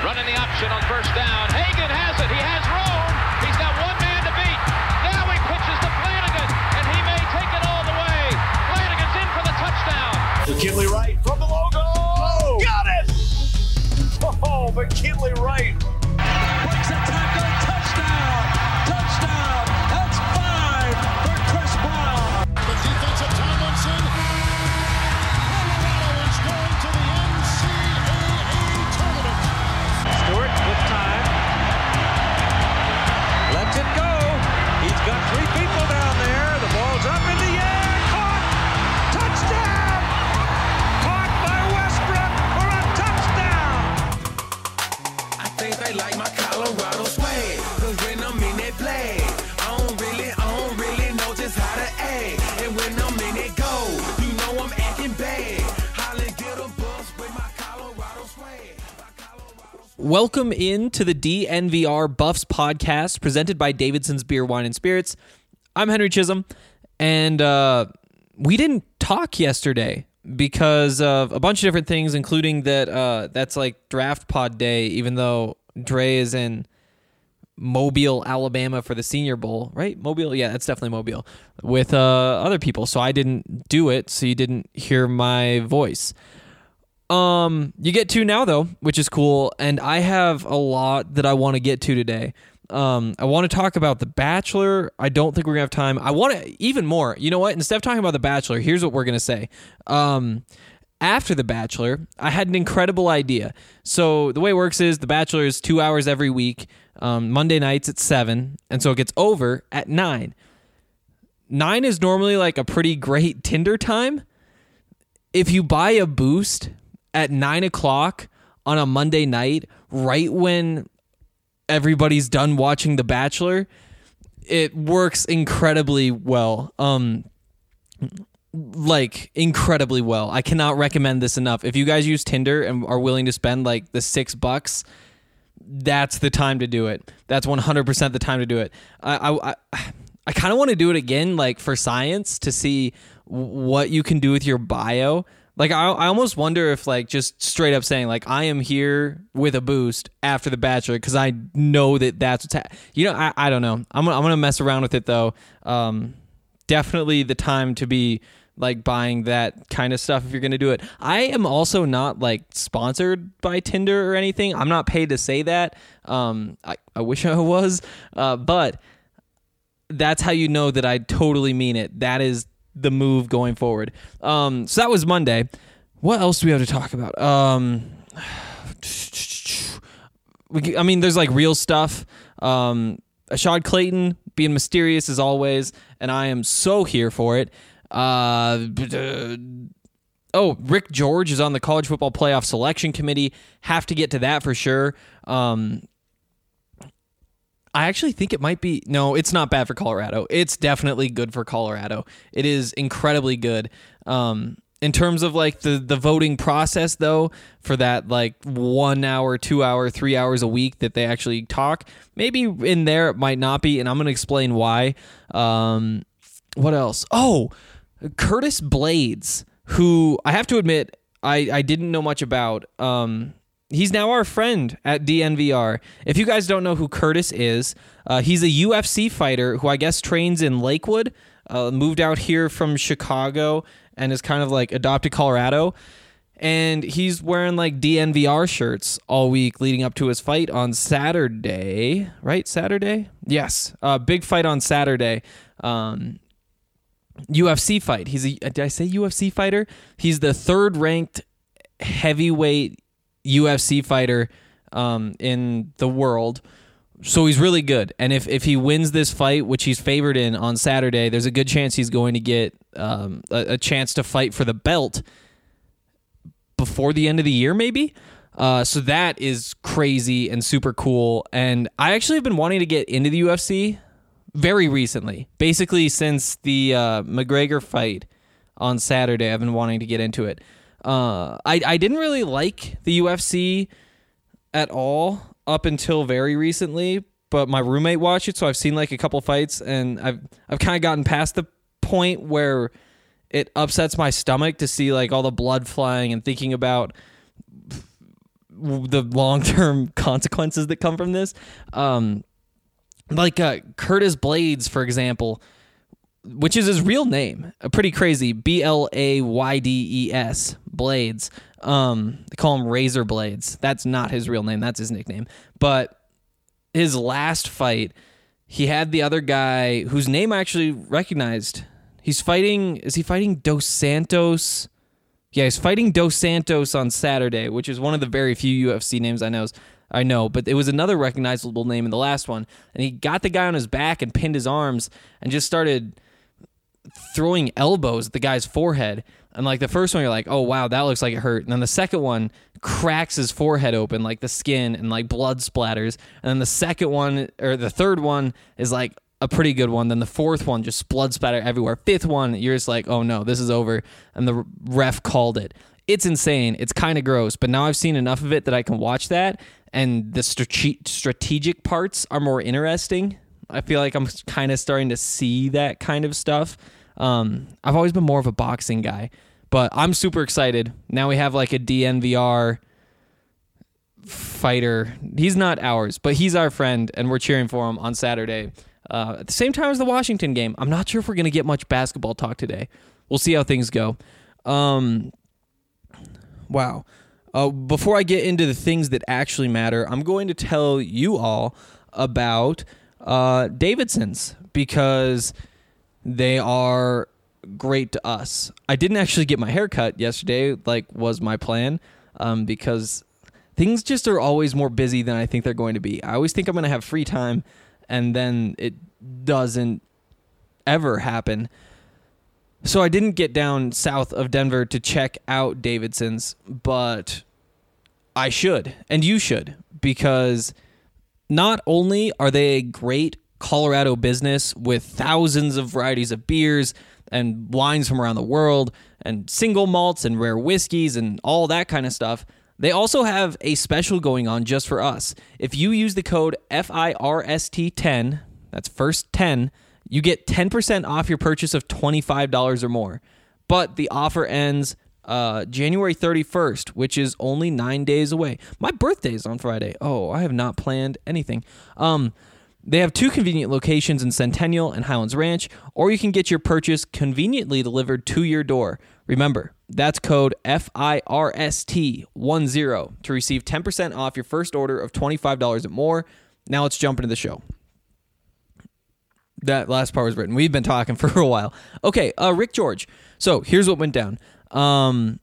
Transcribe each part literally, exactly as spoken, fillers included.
running the option on first down. Hagan has it. He has room. He's got one man to beat. Now he pitches to Flanagan, and he may take it all the way. Flanagan's in for the touchdown. McKinley Wright from the logo. Oh, got it! Oh, McKinley Wright. Breaks a tackle. Touchdown. Touchdown. That's five for Chris Brown. The defensive Tomlinson. Colorado is going to the N C double A tournament. Stewart with time. Lets it go. He's got three people down there. The ball's up in the air. Caught. Touchdown. Caught by Westbrook for a touchdown. I think they like my Colorado swag. Cause when I'm in that play, I don't really, I don't really know just how to act. And when I'm in it go, you know I'm acting bad. Holly get a bus with my Colorado swag. Welcome in to the D N V R Buffs podcast presented by Davidson's Beer, Wine, and Spirits. I'm Henry Chisholm, and uh, we didn't talk yesterday because of a bunch of different things, including that uh, that's like draft pod day, even though Dre is in Mobile, Alabama for the Senior Bowl, right? Mobile? Yeah, that's definitely Mobile, with uh, other people. So I didn't do it, so you didn't hear my voice. Um, you get to now though, which is cool, and I have a lot that I want to get to today. Um, I want to talk about The Bachelor. I don't think we're gonna have time. I want to even more. You know what? Instead of talking about The Bachelor, here's what we're gonna say. Um, after The Bachelor, I had an incredible idea. So the way it works is The Bachelor is two hours every week. Um, Monday nights at seven, and so it gets over at nine. Nine is normally like a pretty great Tinder time. If you buy a boost at nine o'clock on a Monday night, right when everybody's done watching The Bachelor, it works incredibly well. Um, like incredibly well. I cannot recommend this enough. If you guys use Tinder and are willing to spend like the six bucks, that's the time to do it. That's one hundred percent the time to do it. I I, I, I kind of want to do it again, like for science, to see what you can do with your bio. Like, I I almost wonder if, like, just straight up saying, like, I am here with a boost after The Bachelor, because I know that that's what's ha- You know, I, I don't know. I'm, I'm going to mess around with it, though. Um, definitely the time to be, like, buying that kind of stuff if you're going to do it. I am also not, like, sponsored by Tinder or anything. I'm not paid to say that. Um, I, I wish I was. Uh, but that's how you know that I totally mean it. That is the move going forward. Um, so that was Monday. What else do we have to talk about? Um, we, I mean, there's like real stuff. Um, Ashad Clayton being mysterious as always, and I am so here for it. Uh, oh, Rick George is on the College Football Playoff Selection Committee. Have to get to that for sure. Um, I actually think it might be... No, it's not bad for Colorado. It's definitely good for Colorado. It is incredibly good. Um, in terms of like the, the voting process, though, for that like one hour, two hour, three hours a week that they actually talk, maybe in there it might not be, and I'm going to explain why. Um, what else? Oh, Curtis Blades, who I have to admit I, I didn't know much about. Um He's now our friend at D N V R. If you guys don't know who Curtis is, uh, he's a U F C fighter who I guess trains in Lakewood, uh, moved out here from Chicago, and is kind of like adopted Colorado. And he's wearing like D N V R shirts all week leading up to his fight on Saturday, right? Saturday? Yes. Uh, big fight on Saturday. Um, U F C fight. He's a, did I say U F C fighter? He's the third ranked heavyweight U F C fighter um, in the world, so he's really good. And if, if he wins this fight, which he's favored in on Saturday, there's a good chance he's going to get um, a, a chance to fight for the belt before the end of the year, maybe. Uh, so that is crazy and super cool. And I actually have been wanting to get into the U F C very recently, basically since the uh, McGregor fight on Saturday. I've been wanting to get into it. Uh, I, I didn't really like the U F C at all up until very recently, but my roommate watched it, so I've seen like a couple fights, and I've I've kind of gotten past the point where it upsets my stomach to see like all the blood flying and thinking about the long-term consequences that come from this. Um, like uh, Curtis Blades, for example, which is his real name, uh, pretty crazy, B L A Y D E S, Blades. Um, they call him Razor Blades. That's not his real name. That's his nickname. But his last fight, he had the other guy whose name I actually recognized. He's fighting, is he fighting Dos Santos? Yeah, he's fighting Dos Santos on Saturday, which is one of the very few U F C names I know. I know, but it was another recognizable name in the last one. And he got the guy on his back and pinned his arms and just started throwing elbows at the guy's forehead. And like the first one, you're like, oh, wow, that looks like it hurt. And then the second one cracks his forehead open, like the skin, and like blood splatters. And then the second one, or the third one, is like a pretty good one. Then the fourth one, just blood splatter everywhere. Fifth one, you're just like, oh no, this is over. And the ref called it. It's insane. It's kind of gross. But now I've seen enough of it that I can watch that. And the strate- strategic parts are more interesting. I feel like I'm kind of starting to see that kind of stuff. Um, I've always been more of a boxing guy, but I'm super excited. Now we have like a D N V R fighter. He's not ours, but he's our friend, and we're cheering for him on Saturday. Uh, at the same time as the Washington game. I'm not sure if we're going to get much basketball talk today. We'll see how things go. Um, wow. Uh, before I get into the things that actually matter, I'm going to tell you all about uh, Davidson's, because they are great to us. I didn't actually get my hair cut yesterday, like was my plan, um, because things just are always more busy than I think they're going to be. I always think I'm going to have free time, and then it doesn't ever happen. So I didn't get down south of Denver to check out Davidson's, but I should, and you should, because not only are they a great Colorado business with thousands of varieties of beers and wines from around the world and single malts and rare whiskeys and all that kind of stuff, they also have a special going on just for us. If you use the code F I R S T ten, that's first ten, you get ten percent off your purchase of twenty-five dollars or more. But the offer ends uh, January thirty-first, which is only nine days away. My birthday is on Friday. Oh, I have not planned anything. Um, they have two convenient locations in Centennial and Highlands Ranch, or you can get your purchase conveniently delivered to your door. Remember, that's code F I R S T ten to receive ten percent off your first order of twenty-five dollars or more. Now let's jump into the show. That last part was written. We've been talking for a while. Okay, uh, Rick George. So here's what went down. Um,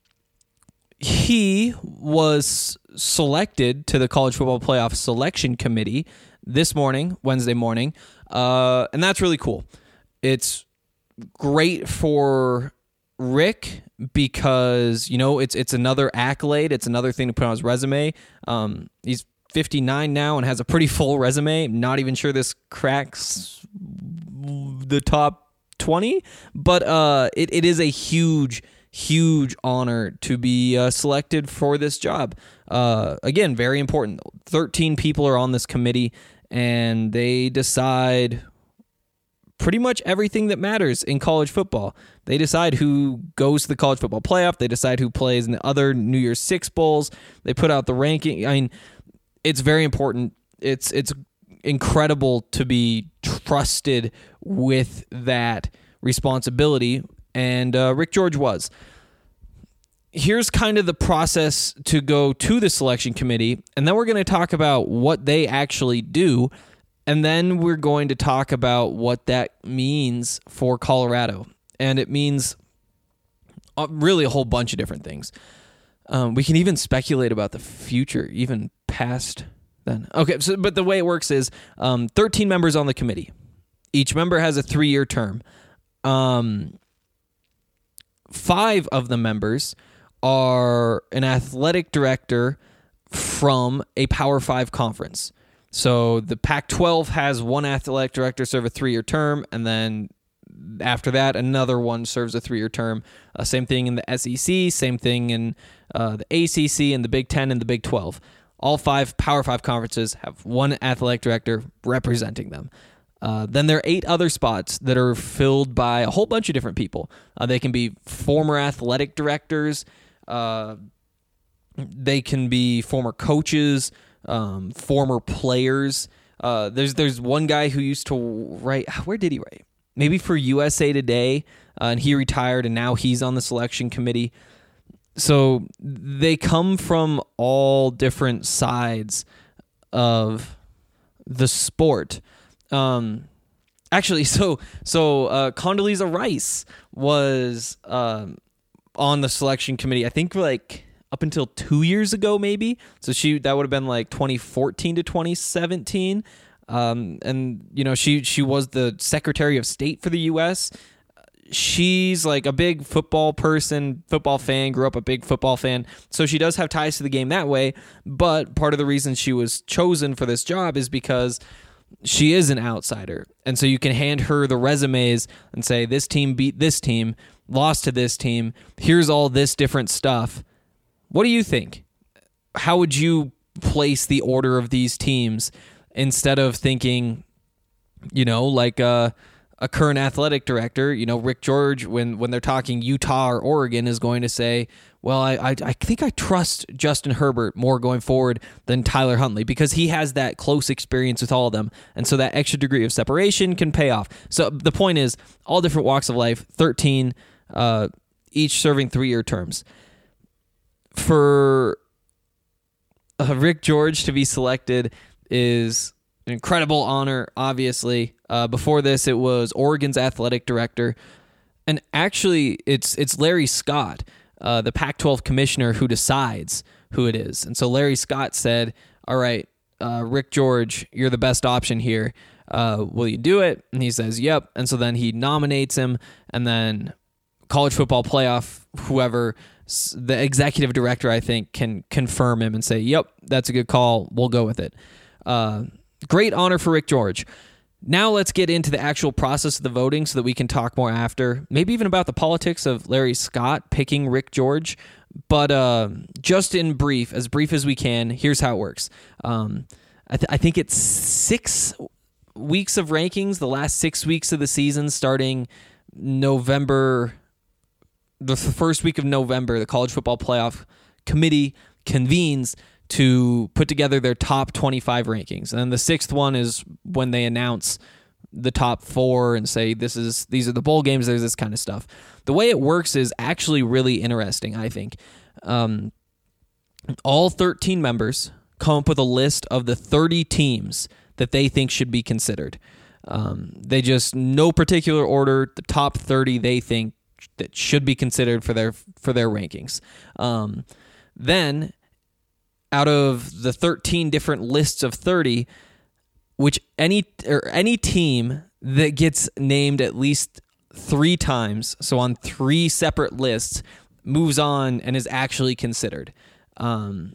he was selected to the College Football Playoff Selection Committee this morning, Wednesday morning, uh, and that's really cool. It's great for Rick because, you know, it's it's another accolade. It's another thing to put on his resume. Um, he's fifty-nine now and has a pretty full resume. Not even sure this cracks the top twenty, but uh, it, it is a huge, huge honor to be uh, selected for this job. Uh, again, very important. thirteen people are on this committee, and they decide pretty much everything that matters in college football. They decide who goes to the college football playoff. They decide who plays in the other New Year's Six bowls. They put out the ranking. I mean, it's very important. It's it's incredible to be trusted with that responsibility, and uh, Rick George was. Here's kind of the process to go to the selection committee, and then we're going to talk about what they actually do, and then we're going to talk about what that means for Colorado. And it means uh, really a whole bunch of different things. Um, we can even speculate about the future, even past then. Okay, so but the way it works is um, thirteen members on the committee. Each member has a three-year term. Um, five of the members are an athletic director from a Power Five conference. So the Pac twelve has one athletic director serve a three-year term, and then after that, another one serves a three-year term. Uh, same thing in the S E C, same thing in uh, the A C C, and the Big Ten, and the Big twelve. All five Power Five conferences have one athletic director representing them. Uh, then there are eight other spots that are filled by a whole bunch of different people. Uh, they can be former athletic directors, uh, They can be former coaches, um, former players. Uh, there's there's one guy who used to write. Where did he write? Maybe for U S A Today, uh, and he retired, and now he's on the selection committee. So they come from all different sides of the sport. Um, actually, so so uh, Condoleezza Rice was um, on the selection committee, I think like up until two years ago, maybe. So she that would have been like twenty fourteen to twenty seventeen. Um, and, you know, she, she was the Secretary of State for the U S She's like a big football person, football fan, grew up a big football fan. So she does have ties to the game that way. But part of the reason she was chosen for this job is because she is an outsider. And so you can hand her the resumes and say, this team beat this team, lost to this team. Here's all this different stuff. What do you think? How would you place the order of these teams instead of thinking, you know, like a, a current athletic director, you know, Rick George, when, when they're talking Utah or Oregon, is going to say, well, I, I I think I trust Justin Herbert more going forward than Tyler Huntley because he has that close experience with all of them. And so that extra degree of separation can pay off. So the point is, all different walks of life, thirteen, uh, each serving three-year terms. For uh, Rick George to be selected is an incredible honor, obviously. Uh, before this, it was Oregon's athletic director. And actually, it's it's Larry Scott, uh, the Pac twelve commissioner, who decides who it is. And so Larry Scott said, all right, uh, Rick George, you're the best option here. Uh, will you do it? And he says, yep. And so then he nominates him, and then College Football Playoff, whoever, the executive director, I think, can confirm him and say, yep, that's a good call. We'll go with it. Uh, great honor for Rick George. Now let's get into the actual process of the voting so that we can talk more after, maybe even about the politics of Larry Scott picking Rick George. But uh, just in brief, as brief as we can, here's how it works. Um, I, th- I think it's six weeks of rankings, the last six weeks of the season, starting November, the first week of November, the College Football Playoff Committee convenes to put together their top twenty-five rankings. And then the sixth one is when they announce the top four and say, this is these are the bowl games, there's this kind of stuff. The way it works is actually really interesting, I think. Um, all thirteen members come up with a list of the thirty teams that they think should be considered. Um, they just, no particular order, the top thirty they think that should be considered for their for their rankings. Um, then, out of the thirteen different lists of thirty, which any or any team that gets named at least three times, so on three separate lists, moves on and is actually considered. Um,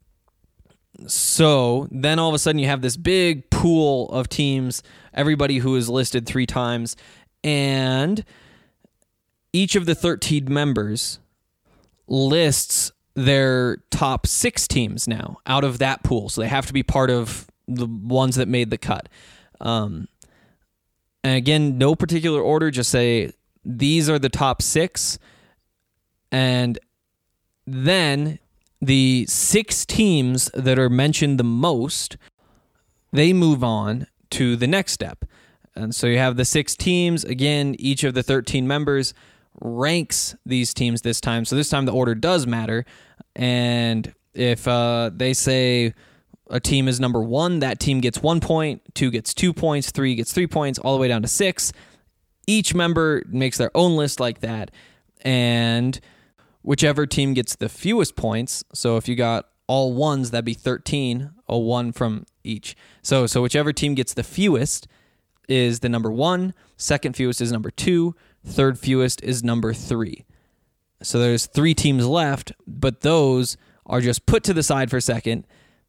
so then all of a sudden you have this big pool of teams, everybody who is listed three times, and each of the thirteen members lists their top six teams now out of that pool. So they have to be part of the ones that made the cut. Um, and again, no particular order, just say these are the top six. And then the six teams that are mentioned the most, they move on to the next step. And so you have the six teams. Again, each of the thirteen members ranks these teams this time. So this time the order does matter. And if uh, they say a team is number one, that team gets one point, two gets two points, three gets three points, all the way down to six. Each member makes their own list like that. And whichever team gets the fewest points, so if you got all ones, that'd be thirteen, a one from each. So, so whichever team gets the fewest is the number one, second fewest is number two, third fewest is number three. So there's three teams left, but those are just put to the side for a second.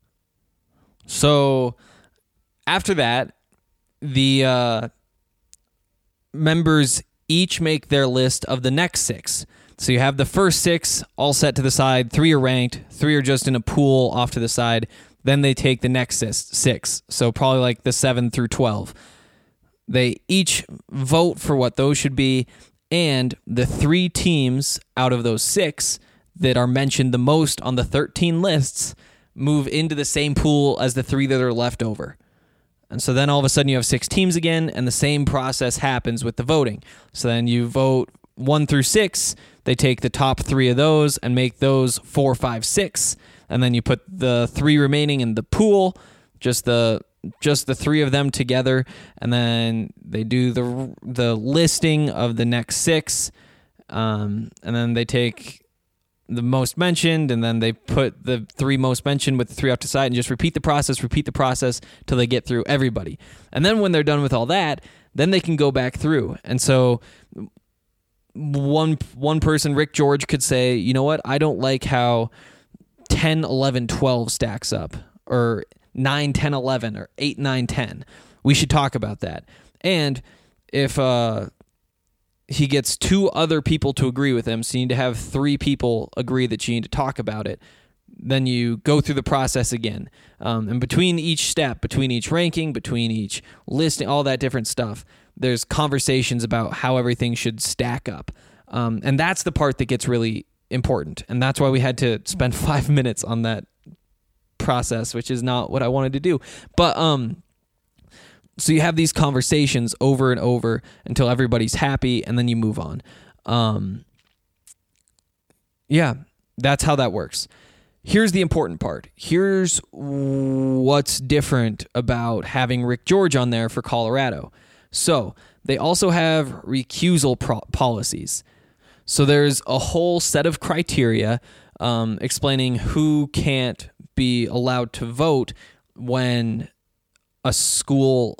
So after that, the uh, members each make their list of the next six. So you have the first six all set to the side. Three are ranked. Three are just in a pool off to the side. Then they take the next six. So probably like the seven through twelve. They each vote for what those should be, and the three teams out of those six that are mentioned the most on the thirteen lists move into the same pool as the three that are left over. And so then all of a sudden you have six teams again, and the same process happens with the voting. So then you vote one through six, they take the top three of those and make those four, five, six, and then you put the three remaining in the pool, just the just the three of them together, and then they do the the listing of the next six, um, and then they take the most mentioned, and then they put the three most mentioned with the three off to the side and just repeat the process, repeat the process till they get through everybody. And then when they're done with all that, then they can go back through. And so one one person, Rick George, could say, you know what, I don't like how ten, eleven, twelve stacks up, or nine, ten, eleven, or eight, nine, ten. We should talk about that. And if uh he gets two other people to agree with him, so you need to have three people agree that you need to talk about it, then you go through the process again. Um, and between each step, between each ranking, between each listing, all that different stuff, there's conversations about how everything should stack up. Um, and that's the part that gets really important. And that's why we had to spend five minutes on that process, which is not what I wanted to do. But um so you have these conversations over and over until everybody's happy, and then you move on. Um, yeah, that's how that works. Here's the important part. Here's what's different about having Rick George on there for Colorado. So they also have recusal pro- policies. So there's a whole set of criteria um, explaining who can't be allowed to vote when a school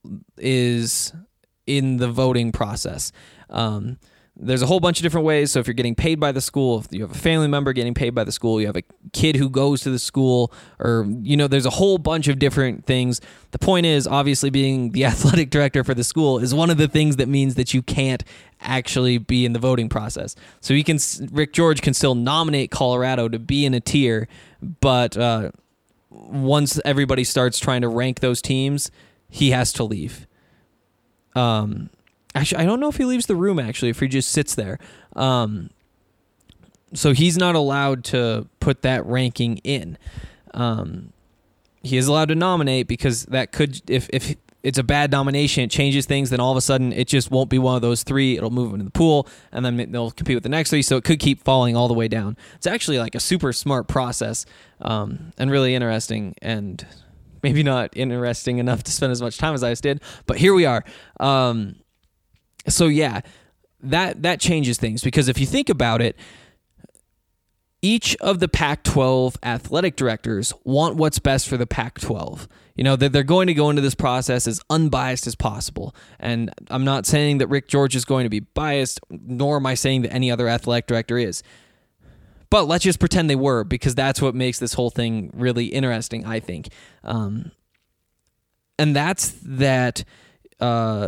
is in the voting process. Um, there's a whole bunch of different ways. So if you're getting paid by the school, if you have a family member getting paid by the school, you have a kid who goes to the school, or, you know, there's a whole bunch of different things. The point is, obviously, being the athletic director for the school is one of the things that means that you can't actually be in the voting process. So he can, Rick George can still nominate Colorado to be in a tier, but uh, once everybody starts trying to rank those teams, he has to leave. Um, actually, I don't know if he leaves the room, actually, if he just sits there. Um, so he's not allowed to put that ranking in. Um, he is allowed to nominate, because that could, if, if it's a bad nomination, it changes things, then all of a sudden it just won't be one of those three. It'll move into the pool, and then they'll compete with the next three, so it could keep falling all the way down. It's actually like a super smart process, um, and really interesting, and maybe not interesting enough to spend as much time as I just did, but here we are. Um, so yeah, that that changes things, because if you think about it, each of the Pac twelve athletic directors want what's best for the Pac twelve. You know, that they're going to go into this process as unbiased as possible. And I'm not saying that Rick George is going to be biased, nor am I saying that any other athletic director is. But let's just pretend they were, because that's what makes this whole thing really interesting, I think. Um, and that's that... Uh,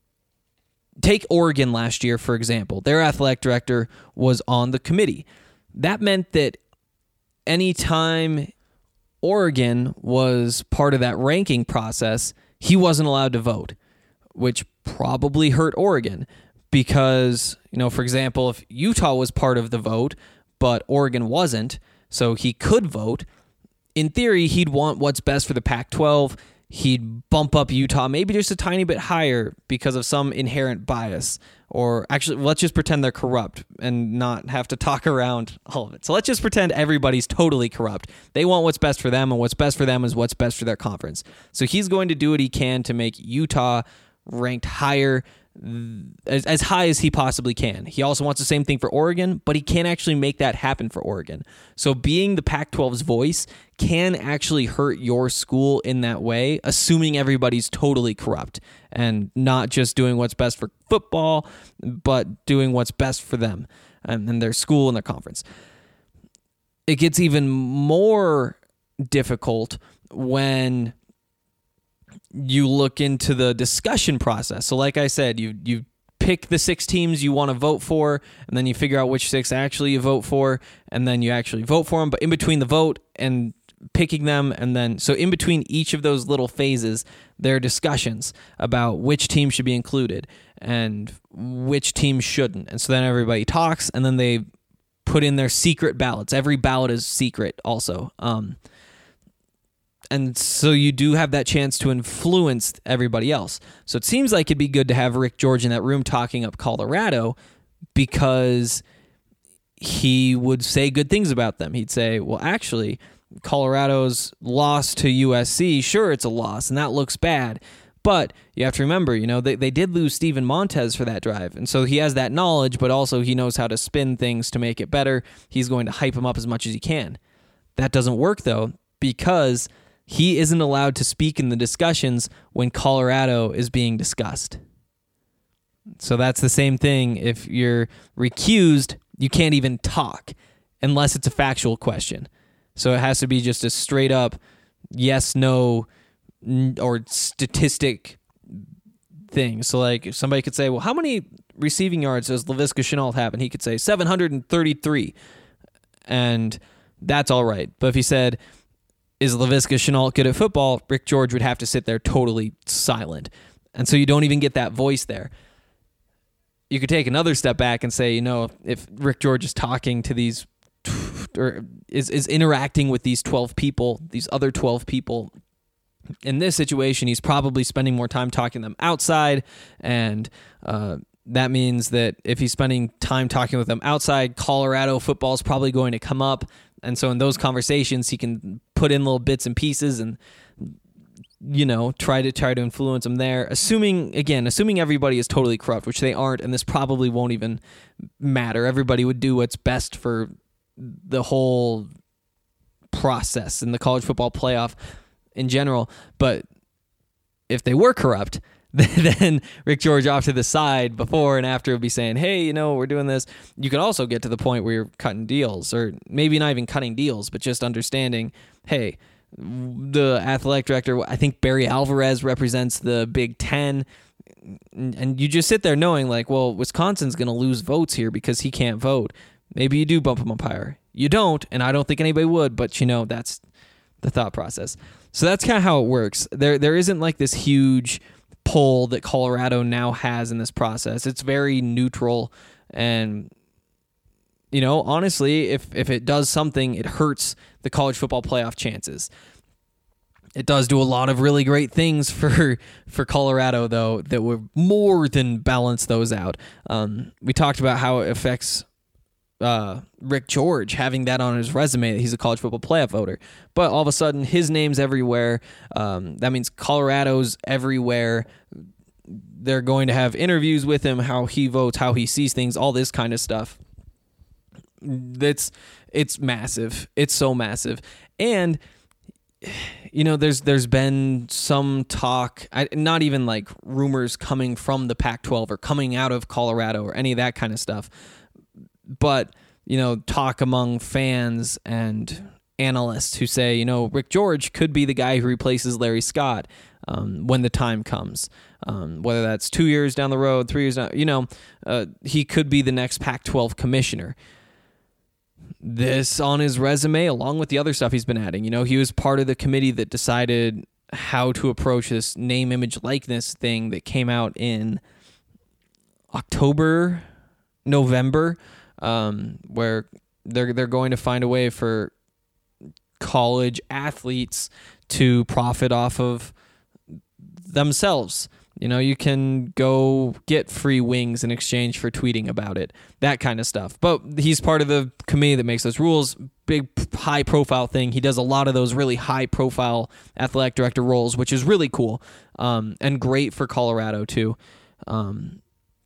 take Oregon last year, for example. Their athletic director was on the committee. That meant that anytime Oregon was part of that ranking process, he wasn't allowed to vote, which probably hurt Oregon because, you know, for example, if Utah was part of the vote, but Oregon wasn't, so he could vote, in theory, he'd want what's best for the Pac twelve. He'd bump up Utah maybe just a tiny bit higher because of some inherent bias. Or actually, let's just pretend they're corrupt and not have to talk around all of it. So let's just pretend everybody's totally corrupt. They want what's best for them, and what's best for them is what's best for their conference. So he's going to do what he can to make Utah ranked higher, as, as high as he possibly can. He also wants the same thing for Oregon, but he can't actually make that happen for Oregon. So being the Pac twelve's voice can actually hurt your school in that way, assuming everybody's totally corrupt and not just doing what's best for football, but doing what's best for them and, and their school and their conference. It gets even more difficult when you look into the discussion process. So like I said, you you pick the six teams you want to vote for, and then you figure out which six actually you vote for, and then you actually vote for them. But in between the vote and picking them, and then so in between each of those little phases, there are discussions about which team should be included and which team shouldn't. And so then everybody talks, and then they put in their secret ballots. Every ballot is secret also. Um, and so you do have that chance to influence everybody else. So it seems like it'd be good to have Rick George in that room talking up Colorado, because he would say good things about them. He'd say, well, actually, Colorado's loss to U S C, sure, it's a loss, and that looks bad. But you have to remember, you know, they, they did lose Steven Montez for that drive. And so he has that knowledge, but also he knows how to spin things to make it better. He's going to hype him up as much as he can. That doesn't work, though, because he isn't allowed to speak in the discussions when Colorado is being discussed. So that's the same thing. If you're recused, you can't even talk unless it's a factual question. So it has to be just a straight up yes, no, or statistic thing. So like if somebody could say, well, how many receiving yards does Laviska Shenault have? And he could say seven hundred thirty-three. And that's all right. But if he said, is Laviska Shenault good at football? Rick George would have to sit there totally silent. And so you don't even get that voice there. You could take another step back and say, you know, if Rick George is talking to these or is, is interacting with these twelve people, these other twelve people, in this situation, he's probably spending more time talking to them outside, and uh, that means that if he's spending time talking with them outside, Colorado football is probably going to come up, and so in those conversations, he can put in little bits and pieces and, you know, try to try to influence them there. Assuming, again, assuming everybody is totally corrupt, which they aren't, and this probably won't even matter. Everybody would do what's best for the whole process in the college football playoff in general. But if they were corrupt, then Rick George off to the side before and after would be saying, hey, you know, we're doing this. You could also get to the point where you're cutting deals, or maybe not even cutting deals, but just understanding, hey, the athletic director, I think Barry Alvarez represents the Big Ten, and you just sit there knowing like, well, Wisconsin's going to lose votes here because he can't vote. Maybe you do bump him up higher. You don't, and I don't think anybody would, but you know, that's the thought process. So that's kind of how it works. There, there isn't like this huge pull that Colorado now has in this process. It's very neutral, and you know, honestly, if if it does something, it hurts the college football playoff chances. It does do a lot of really great things for for Colorado, though, that would more than balance those out. Um, we talked about how it affects uh, Rick George having that on his resume that he's a college football playoff voter, but all of a sudden his name's everywhere. Um, that means Colorado's everywhere. They're going to have interviews with him, how he votes, how he sees things, all this kind of stuff. That's it's massive. It's so massive. And you know, there's there's been some talk, I, not even like rumors coming from the Pac twelve or coming out of Colorado or any of that kind of stuff, but you know, talk among fans and analysts who say, you know, Rick George could be the guy who replaces Larry Scott um, when the time comes. Um, whether that's two years down the road, three years down, you know, uh, he could be the next Pac twelve commissioner. This on his resume, along with the other stuff he's been adding. You know, he was part of the committee that decided how to approach this name, image, likeness thing that came out in October, November, um, where they're they're going to find a way for college athletes to profit off of themselves. You know, you can go get free wings in exchange for tweeting about it, that kind of stuff. But he's part of the committee that makes those rules, big high-profile thing. He does a lot of those really high-profile athletic director roles, which is really cool um, and great for Colorado, too. Um,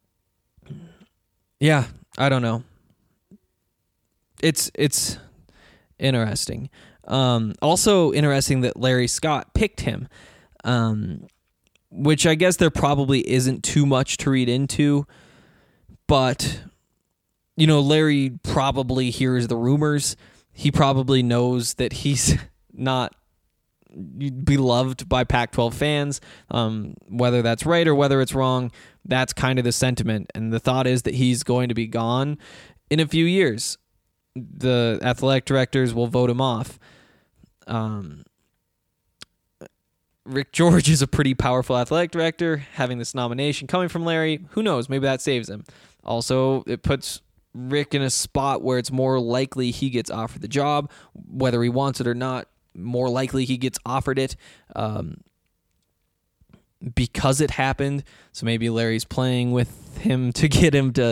yeah, I don't know. It's it's interesting. Um, also interesting that Larry Scott picked him. Um Which I guess there probably isn't too much to read into, but, you know, Larry probably hears the rumors. He probably knows that he's not beloved by Pac twelve fans, um, whether that's right or whether it's wrong. That's kind of the sentiment, and the thought is that he's going to be gone in a few years. The athletic directors will vote him off. Um Rick George is a pretty powerful athletic director. Having this nomination coming from Larry, who knows? Maybe that saves him. Also, it puts Rick in a spot where it's more likely he gets offered the job, whether he wants it or not. More likely he gets offered it um, because it happened. So maybe Larry's playing with him to get him to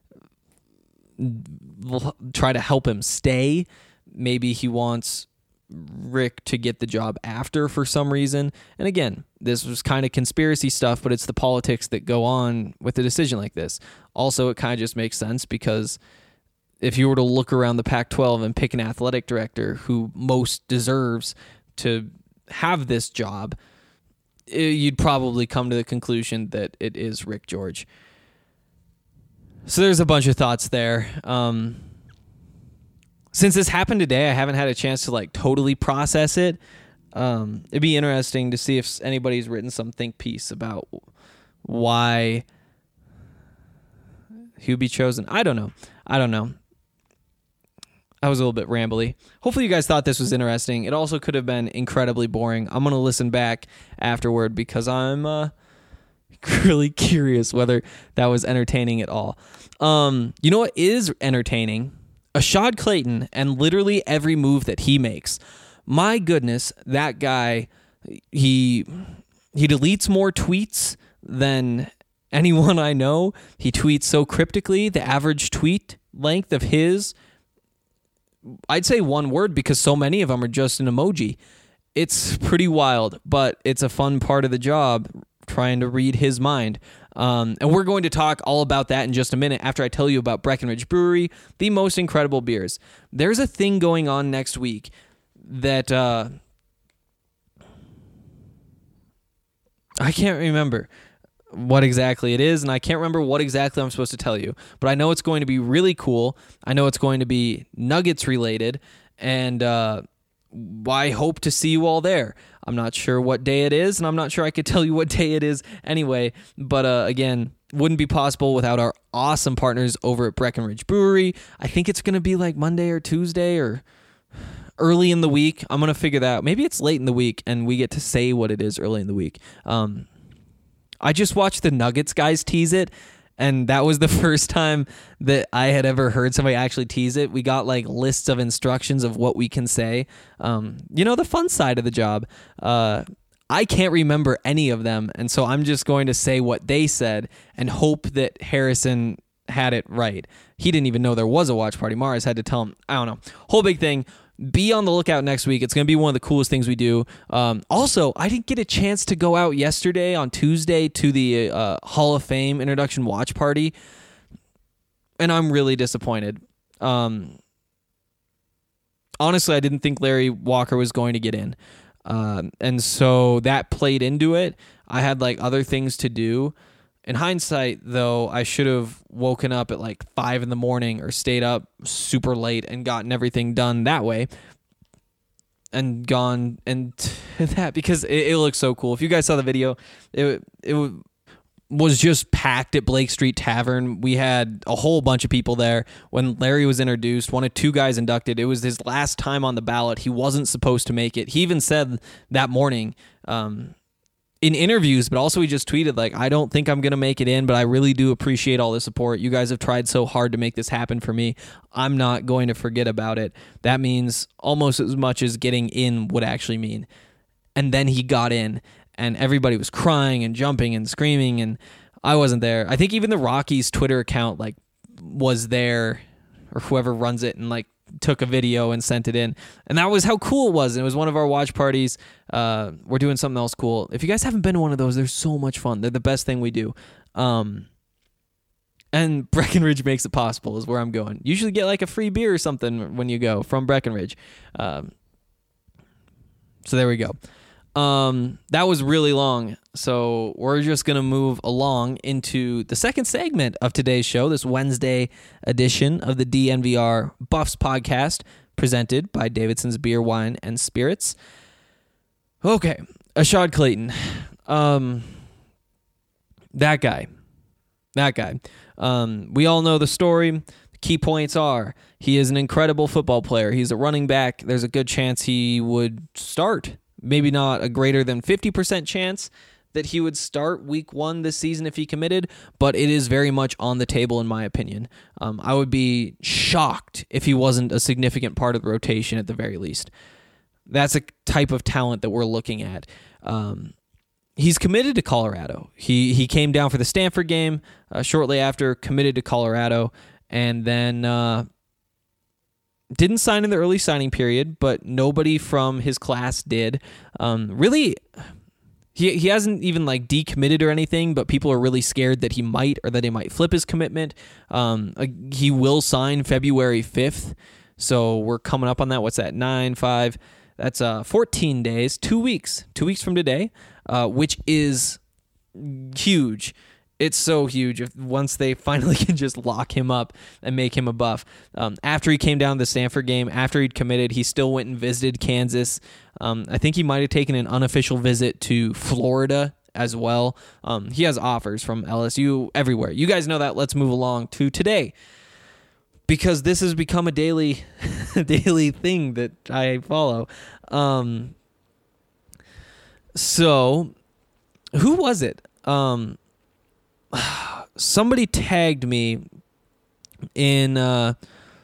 try to help him stay. Maybe he wants Rick to get the job after for some reason. And again, this was kind of conspiracy stuff, but it's the politics that go on with a decision like this. Also, it kind of just makes sense because if you were to look around the Pac twelve and pick an athletic director who most deserves to have this job, you'd probably come to the conclusion that it is Rick George. So there's a bunch of thoughts there. Um, since this happened today, I haven't had a chance to like totally process it. Um, it'd be interesting to see if anybody's written some think piece about why he'd be chosen. I don't know. I don't know. I was a little bit rambly. Hopefully you guys thought this was interesting. It also could have been incredibly boring. I'm going to listen back afterward because I'm uh, really curious whether that was entertaining at all. Um, you know what is entertaining? Ashad Clayton and literally every move that he makes. My goodness, that guy, he he deletes more tweets than anyone I know. He tweets so cryptically. The average tweet length of his, I'd say one word because so many of them are just an emoji. It's pretty wild, but it's a fun part of the job trying to read his mind. Um, and we're going to talk all about that in just a minute after I tell you about Breckenridge Brewery, the most incredible beers. There's a thing going on next week that uh, I can't remember what exactly it is, and I can't remember what exactly I'm supposed to tell you, but I know it's going to be really cool. I know it's going to be Nuggets related, and uh, I hope to see you all there. I'm not sure what day it is, and I'm not sure I could tell you what day it is anyway, but uh, again, wouldn't be possible without our awesome partners over at Breckenridge Brewery. I think it's going to be like Monday or Tuesday or early in the week. I'm going to figure that out. Maybe it's late in the week, and we get to say what it is early in the week. Um, I just watched the Nuggets guys tease it, and that was the first time that I had ever heard somebody actually tease it. We got like lists of instructions of what we can say. Um, you know, the fun side of the job. Uh, I can't remember any of them, and so I'm just going to say what they said and hope that Harrison had it right. He didn't even know there was a watch party. Mars had to tell him. I don't know. Whole big thing. Be on the lookout next week. It's going to be one of the coolest things we do. Um, also, I didn't get a chance to go out yesterday on Tuesday to the uh, Hall of Fame introduction watch party, and I'm really disappointed. Um, honestly, I didn't think Larry Walker was going to get in, um, and so that played into it. I had like other things to do. In hindsight, though, I should have woken up at like five in the morning or stayed up super late and gotten everything done that way and gone and that because it, it looks so cool. If you guys saw the video, it it was just packed at Blake Street Tavern. We had a whole bunch of people there when Larry was introduced. One of two guys inducted. It was his last time on the ballot. He wasn't supposed to make it. He even said that morning, um, in interviews, but also he just tweeted like, I don't think I'm going to make it in, but I really do appreciate all the support. You guys have tried so hard to make this happen for me. I'm not going to forget about it. That means almost as much as getting in would actually mean. And then he got in and everybody was crying and jumping and screaming and I wasn't there. I think even the Rockies Twitter account like was there or whoever runs it and like took a video and sent it in. And that was how cool it was. And it was one of our watch parties. Uh, we're doing something else cool. If you guys haven't been to one of those, they're so much fun. They're the best thing we do. Um, and Breckenridge makes it possible is where I'm going. Usually get like a free beer or something when you go from Breckenridge. Um, so there we go. Um, that was really long. So we're just going to move along into the second segment of today's show, this Wednesday edition of the D N V R Buffs podcast, presented by Davidson's Beer, Wine, and Spirits. Okay, Ashad Clayton. Um, that guy. That guy. Um, we all know the story. The key points are he is an incredible football player. He's a running back. There's a good chance he would start. Maybe not a greater than fifty percent chance, that he would start week one this season if he committed, but it is very much on the table in my opinion. Um, I would be shocked if he wasn't a significant part of the rotation at the very least. That's a type of talent that we're looking at. Um, he's committed to Colorado. He he came down for the Stanford game uh, shortly after, committed to Colorado, and then uh, didn't sign in the early signing period, but nobody from his class did. Um, really... He he hasn't even like decommitted or anything, but people are really scared that he might or that he might flip his commitment. Um, uh, he will sign February fifth, so we're coming up on that. What's that? Nine, five. That's uh fourteen days, two weeks, two weeks from today, uh, which is huge. It's so huge if once they finally can just lock him up and make him a Buff. Um, after he came down to the Stanford game, after he'd committed, he still went and visited Kansas. Um, I think he might have taken an unofficial visit to Florida as well. Um, he has offers from L S U everywhere. You guys know that. Let's move along to today, because this has become a daily, daily thing that I follow. Um, so, who was it? Um, somebody tagged me in uh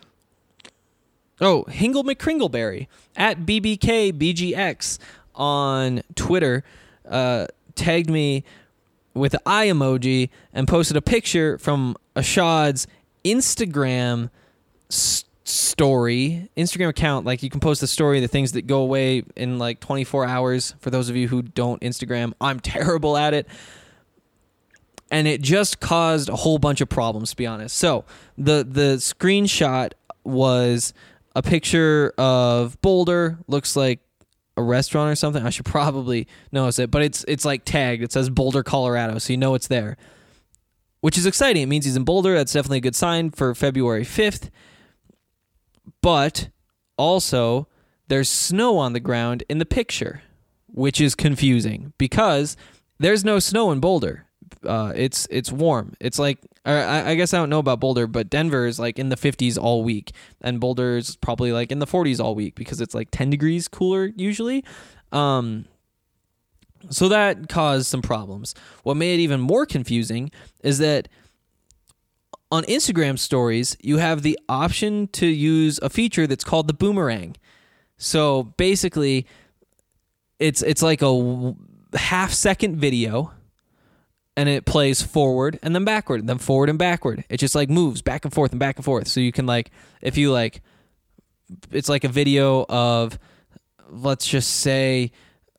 oh Hingle McCringleberry at B B K B G X on Twitter, uh tagged me with the eye emoji and posted a picture from Ashad's Instagram s- story Instagram account. Like, you can post a story, the things that go away in like twenty-four hours. For those of you who don't Instagram, I'm terrible at it. And it just caused a whole bunch of problems, to be honest. So the the screenshot was a picture of Boulder. Looks like a restaurant or something. I should probably notice it, but it's it's like tagged. It says Boulder, Colorado, so you know it's there, which is exciting. It means he's in Boulder. That's definitely a good sign for February fifth. But also, there's snow on the ground in the picture, which is confusing because there's no snow in Boulder. Uh, it's it's warm. It's like, I, I guess I don't know about Boulder, but Denver is like in the fifties all week, and Boulder is probably like in the forties all week because it's like ten degrees cooler usually. Um, so that caused some problems. What made it even more confusing is that on Instagram stories, you have the option to use a feature that's called the boomerang. So basically, it's it's like a half second video, and it plays forward and then backward and then forward and backward. It just like moves back and forth and back and forth. So you can like, if you like, it's like a video of, let's just say,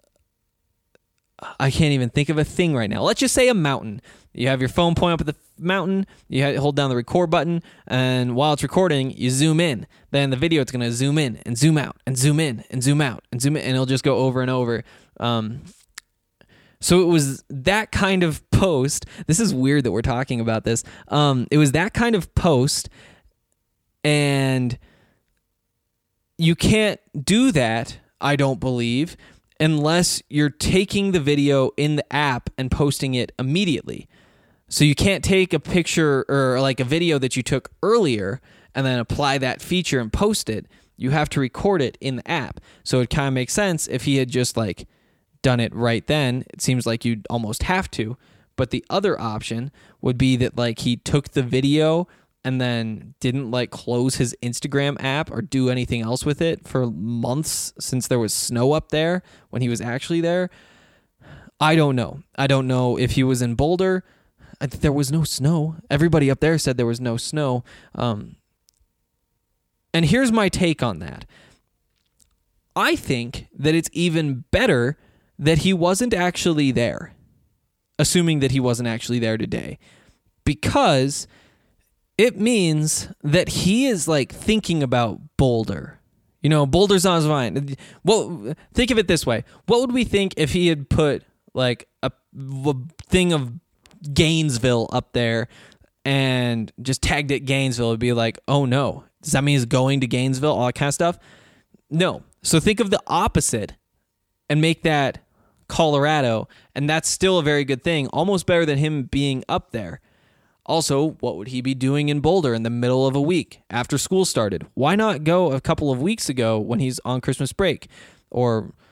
I can't even think of a thing right now. Let's just say a mountain. You have your phone point up at the mountain, you hold down the record button, and while it's recording, you zoom in. Then the video, it's going to zoom in and zoom out and zoom in and zoom out and zoom in, and it'll just go over and over. Um, So it was that kind of post. This is weird that we're talking about this. Um, it was that kind of post, and you can't do that, I don't believe, unless you're taking the video in the app and posting it immediately. So you can't take a picture or like a video that you took earlier and then apply that feature and post it. You have to record it in the app. So it kind of makes sense if he had just like done it right then. It seems like you'd almost have to. But the other option would be that like he took the video and then didn't like close his Instagram app or do anything else with it for months since there was snow up there when he was actually there. I don't know. I don't know if he was in Boulder. I think there was no snow. Everybody up there said there was no snow. Um, and here's my take on that. I think that it's even better that he wasn't actually there, assuming that he wasn't actually there today, because it means that he is like thinking about Boulder. You know, Boulder's on his mind. Well, think of it this way. What would we think if he had put like a, a thing of Gainesville up there and just tagged it Gainesville? It'd be like, oh no, does that mean he's going to Gainesville? All that kind of stuff? No. So think of the opposite and make that Colorado, and that's still a very good thing, almost better than him being up there. Also, what would he be doing in Boulder in the middle of a week after school started? Why not go a couple of weeks ago when he's on Christmas break, or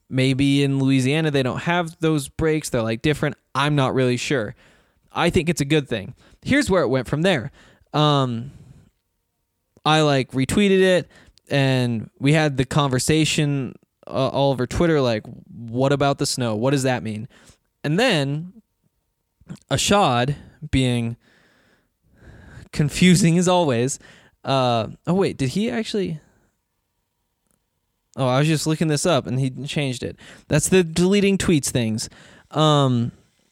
Maybe in Louisiana they don't have those breaks. They're like different. I'm not really sure. I think it's a good thing. Here's where it went from there. Um, I like retweeted it, and we had the conversation uh, all over Twitter, like, what about the snow? What does that mean? And then Ashad, being confusing as always, uh, oh wait, did he actually... Oh, I was just looking this up, and he changed it. That's the deleting tweets things. Um,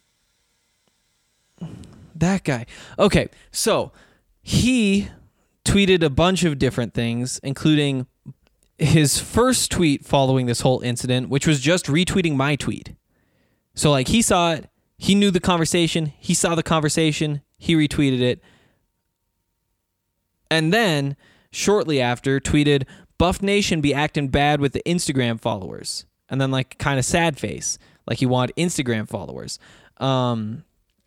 that guy. Okay, so he tweeted a bunch of different things, including his first tweet following this whole incident, which was just retweeting my tweet. So, like, he saw it. He knew the conversation. He saw the conversation. He retweeted it. And then, shortly after, tweeted... Buff Nation be acting bad with the Instagram followers. And then, like, kind of sad face. Like, he wanted Instagram followers. Um,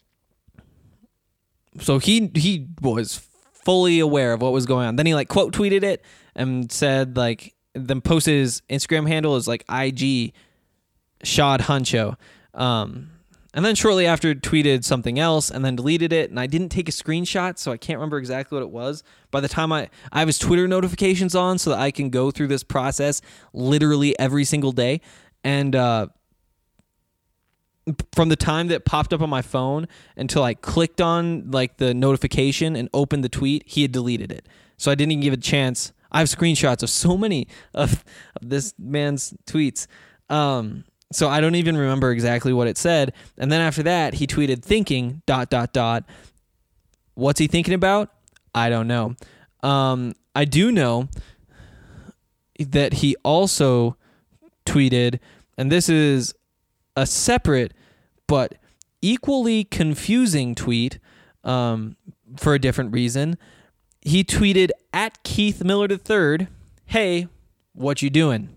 so he he was fully aware of what was going on. Then he, like, quote tweeted it and said, like, then posted his Instagram handle as, like, I G Shad Huncho. Um, and then shortly after tweeted something else and then deleted it. And I didn't take a screenshot, so I can't remember exactly what it was. By the time I, I have his Twitter notifications on so that I can go through this process literally every single day. And uh, from the time that it popped up on my phone until I clicked on like the notification and opened the tweet, he had deleted it. So I didn't even give it a chance. I have screenshots of so many of, of this man's tweets. Um, so I don't even remember exactly what it said. And then after that, he tweeted thinking dot, dot, dot. What's he thinking about? I don't know. Um, I do know that he also tweeted, and this is a separate but equally confusing tweet um, for a different reason. He tweeted at Keith Miller the third, hey, what you doing?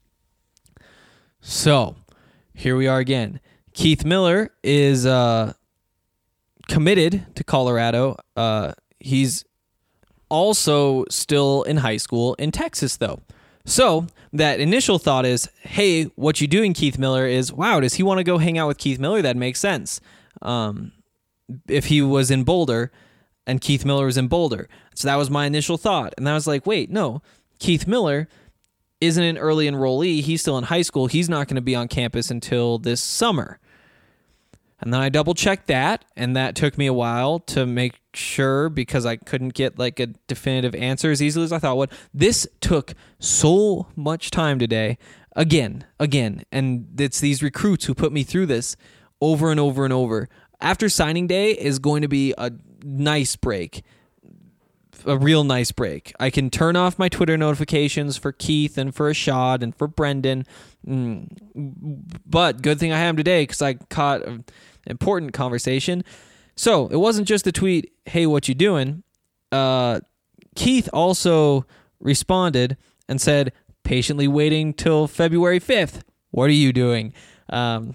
So, here we are again. Keith Miller is uh, committed to Colorado. Uh, he's also still in high school in Texas, though. So, that initial thought is, hey, what you doing, Keith Miller, is, wow, does he want to go hang out with Keith Miller? That makes sense. Um, if he was in Boulder and Keith Miller was in Boulder. So that was my initial thought. And I was like, wait, no, Keith Miller isn't an early enrollee. He's still in high school. He's not going to be on campus until this summer. And then I double checked that, and that took me a while to make sure because I couldn't get like a definitive answer as easily as I thought would. This took so much time today. Again, again, and it's these recruits who put me through this over and over and over. After signing day is going to be a nice break. A real nice break. I can turn off my Twitter notifications for Keith and for Ashad and for Brendan. Mm. But good thing I have today because I caught an important conversation. So it wasn't just the tweet, hey, what you doing? Uh, Keith also responded and said, patiently waiting till February fifth. What are you doing? Um,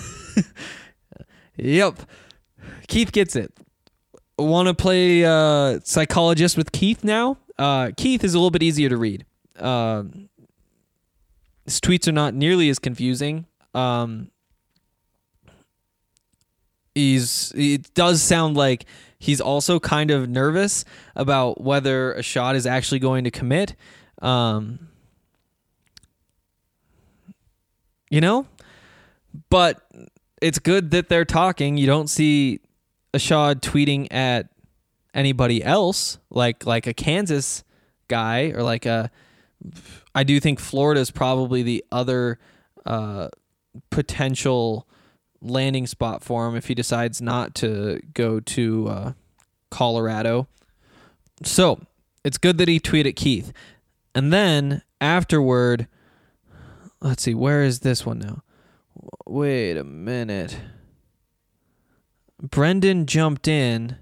yep. Keith gets it. Want to play uh, psychologist with Keith now? Uh, Keith is a little bit easier to read. Uh, his tweets are not nearly as confusing. Um, he's it does sound like he's also kind of nervous about whether Ashad is actually going to commit. Um, you know, but it's good that they're talking. You don't see Ashad tweeting at anybody else, like like a Kansas guy or like a. I do think Florida is probably the other uh, potential landing spot for him if he decides not to go to uh, Colorado. So it's good that he tweeted Keith, and then afterward, let's see, where is this one now? Wait a minute. Brendan jumped in.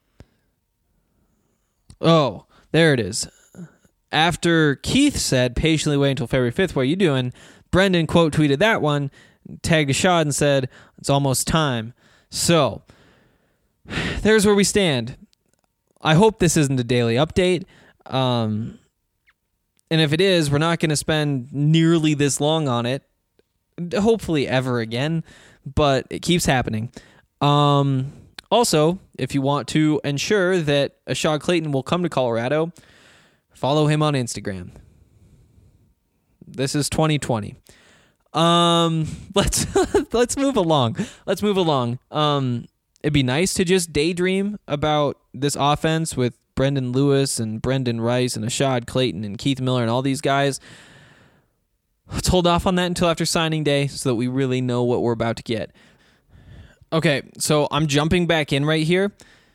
Oh, there it is. After Keith said, patiently wait until February fifth, what are you doing? Brendan quote tweeted that one, tagged Ashad and said, it's almost time. So, there's where we stand. I hope this isn't a daily update. Um, and if it is, we're not going to spend nearly this long on it. hopefully ever again, but it keeps happening. Um, also, if you want to ensure that Ashad Clayton will come to Colorado, follow him on Instagram. This is twenty twenty. Um, let's let's move along. Let's move along. Um, it'd be nice to just daydream about this offense with Brendan Lewis and Brendan Rice and Ashad Clayton and Keith Miller and all these guys. Let's hold off on that until after signing day so that we really know what we're about to get. Okay, so I'm jumping back in right here.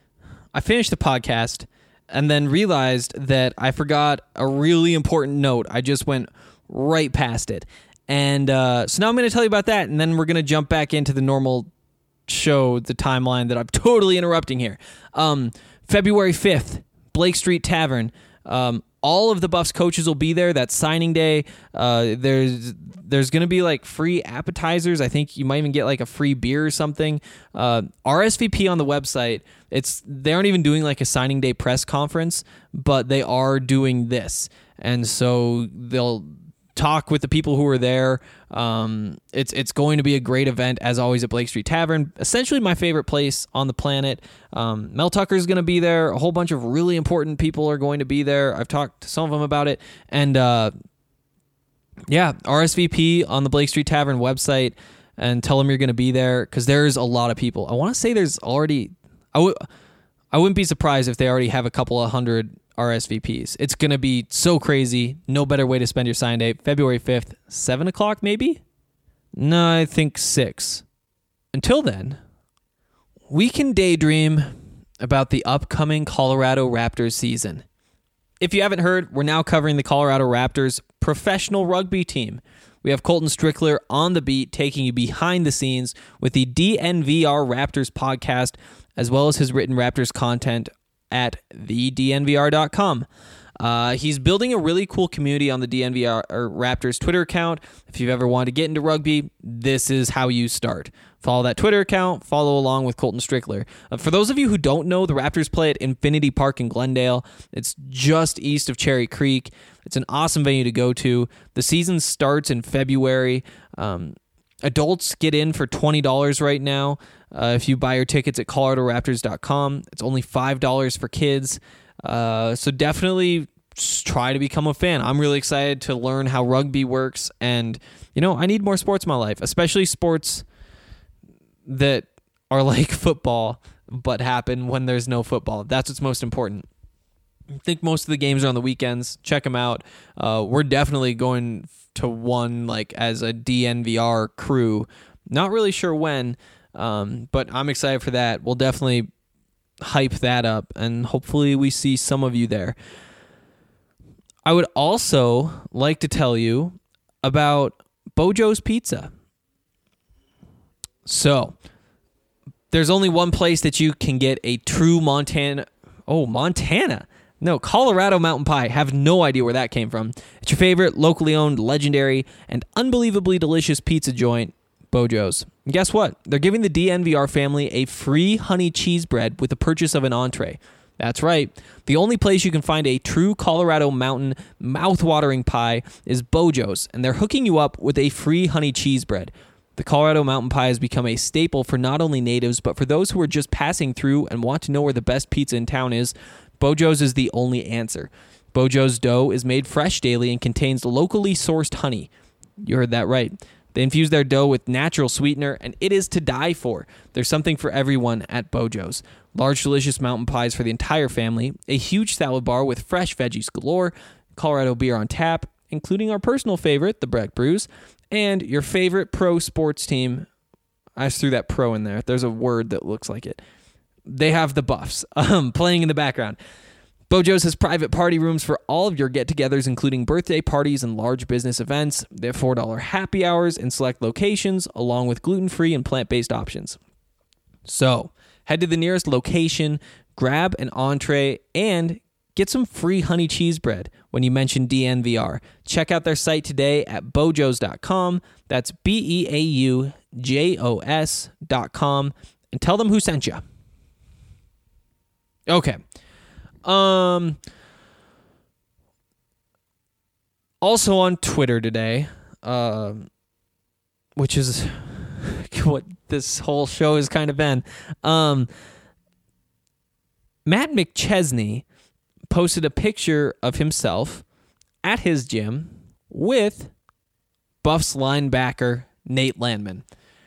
I finished the podcast and then realized that I forgot a really important note. I just went right past it. And uh, so now I'm going to tell you about that, and then we're going to jump back into the normal show, the timeline that I'm totally interrupting here. Um, February fifth, Blake Street Tavern. Um, all of the Buffs coaches will be there. That's signing day. Uh, there's there's going to be like free appetizers. I think you might even get like a free beer or something. Uh, R S V P on the website. It's they aren't even doing like a signing day press conference, but they are doing this, and so they'll talk with the people who are there. Um, it's it's going to be a great event, as always, at Blake Street Tavern. Essentially my favorite place on the planet. Um, Mel Tucker's going to be there. A whole bunch of really important people are going to be there. I've talked to some of them about it. And uh, yeah, R S V P on the Blake Street Tavern website and tell them you're going to be there, because there's a lot of people. I want to say there's already... I w- I wouldn't be surprised if they already have a couple of hundred R S V Ps. It's going to be so crazy. No better way to spend your sign day. February fifth, seven o'clock maybe? No, I think six. Until then, we can daydream about the upcoming Colorado Raptors season. If you haven't heard, we're now covering the Colorado Raptors professional rugby team. We have Colton Strickler on the beat, taking you behind the scenes with the D N V R Raptors podcast, as well as his written Raptors content at the D N V R dot com. Uh, he's building a really cool community on the D N V R or Raptors Twitter account. If you've ever wanted to get into rugby, this is how you start. Follow that Twitter account, follow along with Colton Strickler. Uh, for those of you who don't know, the Raptors play at Infinity Park in Glendale. It's just east of Cherry Creek. It's an awesome venue to go to. The season starts in February. Um, adults get in for twenty dollars right now. Uh, if you buy your tickets at Colorado Raptors dot com, it's only five dollars for kids. Uh, so definitely try to become a fan. I'm really excited to learn how rugby works. And, you know, I need more sports in my life, especially sports that are like football, but happen when there's no football. That's what's most important. I think most of the games are on the weekends. Check them out. Uh, we're definitely going to one like as a D N V R crew. Not really sure when, um, but I'm excited for that. We'll definitely hype that up, and hopefully we see some of you there. I would also like to tell you about Bojo's Pizza. So, there's only one place that you can get a true Montana... Oh, Montana! No, Colorado Mountain Pie. Have no idea where that came from. It's your favorite, locally owned, legendary, and unbelievably delicious pizza joint, Bojo's. And guess what? They're giving the D N V R family a free honey cheese bread with the purchase of an entree. That's right. The only place you can find a true Colorado Mountain mouth-watering pie is Bojo's, and they're hooking you up with a free honey cheese bread. The Colorado Mountain Pie has become a staple for not only natives, but for those who are just passing through and want to know where the best pizza in town is. Bojo's is the only answer. Bojo's dough is made fresh daily and contains locally sourced honey. You heard that right. They infuse their dough with natural sweetener, and it is to die for. There's something for everyone at Bojo's. Large, delicious mountain pies for the entire family, a huge salad bar with fresh veggies galore, Colorado beer on tap, including our personal favorite, the Breck Brews, and your favorite pro sports team. I just threw that pro in there. There's a word that looks like it. They have the Buffs um, playing in the background. Bojo's has private party rooms for all of your get-togethers, including birthday parties and large business events. They have four dollar happy hours in select locations, along with gluten-free and plant-based options. So, head to the nearest location, grab an entree, and get some free honey cheese bread when you mention D N V R. Check out their site today at bojos dot com. That's B E A U J O S dot com. And tell them who sent you. Okay. Um. Also on Twitter today, uh, which is what this whole show has kind of been. Um, Matt McChesney posted a picture of himself at his gym with Buffs linebacker Nate Landman.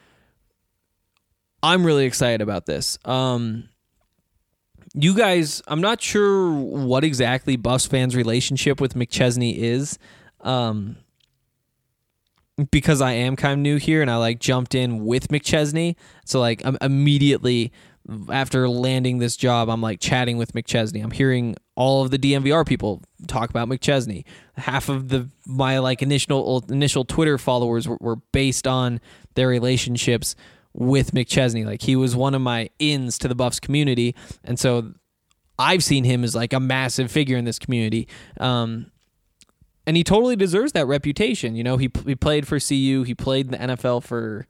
I'm really excited about this. Um, you guys, I'm not sure what exactly Buffs fans' relationship with McChesney is, um, because I am kind of new here and I like jumped in with McChesney. So like I'm immediately after landing this job, I'm like chatting with McChesney. I'm hearing all of the D M V R people talk about McChesney. Half of the my like initial initial Twitter followers were, were based on their relationships with McChesney. Like he was one of my ins to the Buffs community, and so I've seen him as like a massive figure in this community. Um, and he totally deserves that reputation. You know, he he played for C U. He played in the N F L for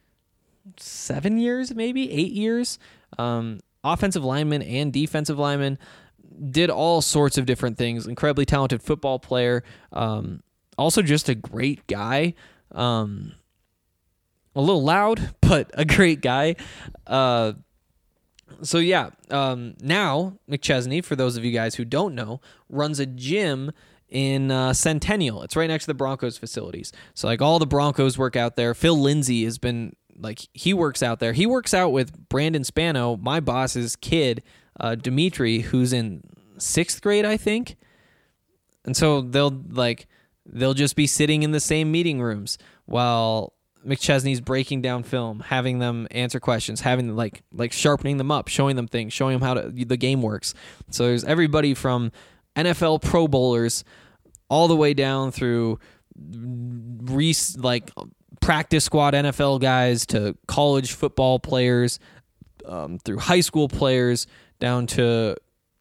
seven years, maybe eight years. Um, offensive lineman and defensive lineman, did all sorts of different things. Incredibly talented football player. Um, also just a great guy. Um, a little loud, but a great guy. Uh, so yeah, um, now McChesney, for those of you guys who don't know, runs a gym in uh, Centennial. It's right next to the Broncos facilities. So like all the Broncos work out there. Phil Lindsay has been like, he works out there. He works out with Brandon Spano, my boss's kid, uh, Dimitri, who's in sixth grade, I think. And so they'll like, they'll just be sitting in the same meeting rooms while McChesney's breaking down film, having them answer questions, having like, like sharpening them up, showing them things, showing them how to, the game works. So there's everybody from N F L Pro Bowlers all the way down through re- like practice squad N F L guys to college football players, um, through high school players down to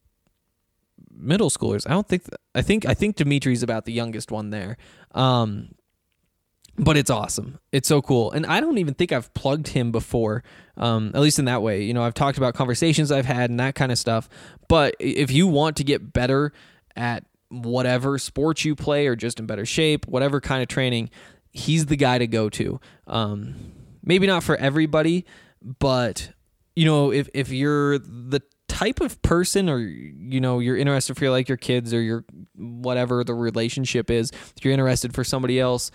middle schoolers. I don't think th- I think I think Dimitri's about the youngest one there. Um, but it's awesome. It's so cool. And I don't even think I've plugged him before, um, at least in that way. You know, I've talked about conversations I've had and that kind of stuff. But if you want to get better at whatever sport you play or just in better shape, whatever kind of training, he's the guy to go to. Um, maybe not for everybody, but, you know, if, if you're the type of person or, you know, you're interested for like your kids or your whatever the relationship is, if you're interested for somebody else,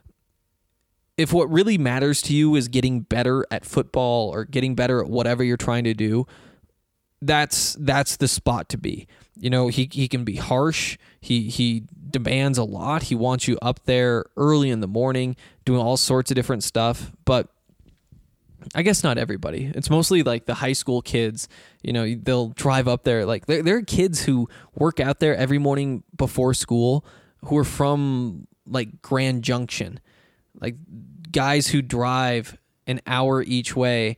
if what really matters to you is getting better at football or getting better at whatever you're trying to do, that's that's the spot to be. You know, he he can be harsh. He he demands a lot. He wants you up there early in the morning doing all sorts of different stuff. But I guess not everybody. It's mostly like the high school kids. You know, they'll drive up there. Like there, there are kids who work out there every morning before school who are from like Grand Junction. Like guys who drive an hour each way,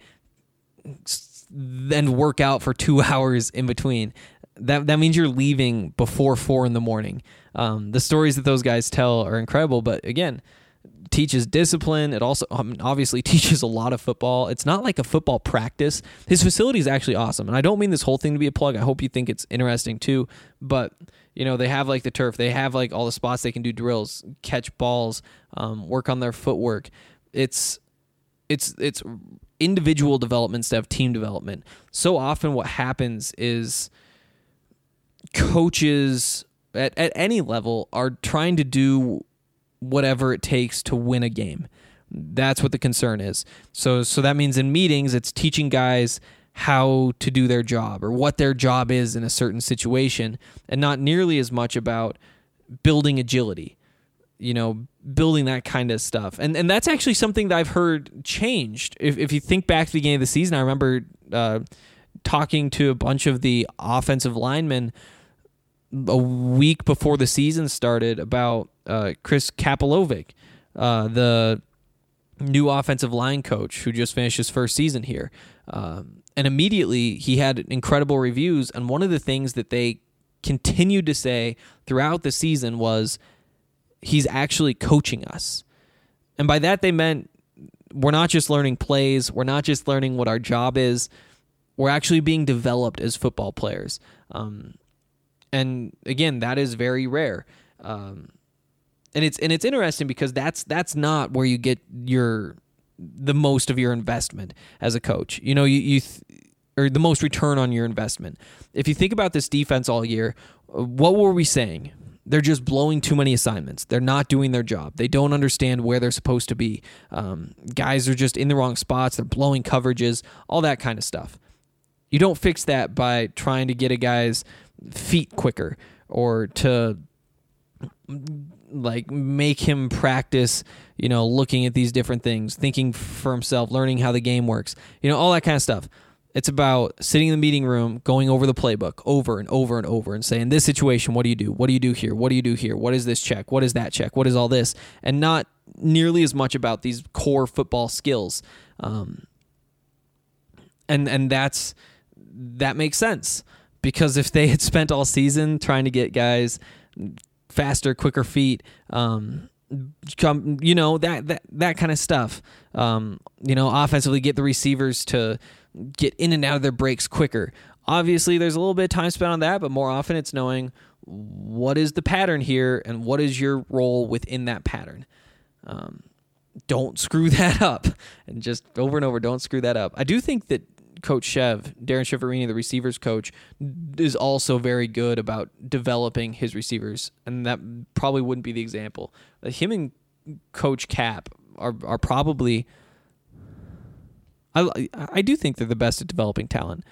then work out for two hours in between. That that means you're leaving before four in the morning. Um, the stories that those guys tell are incredible, but again, teaches discipline. It also um, obviously teaches a lot of football. It's not like a football practice. His facility is actually awesome, and I don't mean this whole thing to be a plug. I hope you think it's interesting too, but you know, they have like the turf. They have like all the spots they can do drills, catch balls, um, work on their footwork. It's it's it's individual development instead of team development. So often what happens is coaches at, at any level are trying to do whatever it takes to win a game. That's what the concern is. So so that means in meetings, it's teaching guys how to do their job or what their job is in a certain situation, and not nearly as much about building agility, you know, building that kind of stuff. And and that's actually something that I've heard changed. If if you think back to the beginning of the season, I remember uh, talking to a bunch of the offensive linemen a week before the season started about uh, Chris Kapilovic, uh, the new offensive line coach who just finished his first season here. Um, and immediately he had incredible reviews. And one of the things that they continued to say throughout the season was, he's actually coaching us. And by that they meant we're not just learning plays. We're not just learning what our job is. We're actually being developed as football players. Um, and again, that is very rare. Um, and it's and it's interesting because that's that's not where you get your the most of your investment as a coach. You know, you you th- or the most return on your investment. If you think about this defense all year, what were we saying? They're just blowing too many assignments. They're not doing their job. They don't understand where they're supposed to be. Um, guys are just in the wrong spots. They're blowing coverages, all that kind of stuff. You don't fix that by trying to get a guy's feet quicker or to like make him practice, you know, looking at these different things, thinking for himself, learning how the game works, you know, all that kind of stuff. It's about sitting in the meeting room, going over the playbook over and over and over and saying, this situation, what do you do? What do you do here? What do you do here? What is this check? What is that check? What is all this? And not nearly as much about these core football skills. Um, and and that's that makes sense, because if they had spent all season trying to get guys faster, quicker feet, um, come, you know, that that that kind of stuff, um, you know, offensively get the receivers to get in and out of their breaks quicker. Obviously, there's a little bit of time spent on that, but more often it's knowing what is the pattern here and what is your role within that pattern. Um, don't screw that up, and just over and over, don't screw that up. I do think that Coach Chev, Darren Shiverini, the receivers coach, is also very good about developing his receivers, and that probably wouldn't be the example. Him and Coach Cap are are probably. I I do think they're the best at developing talent.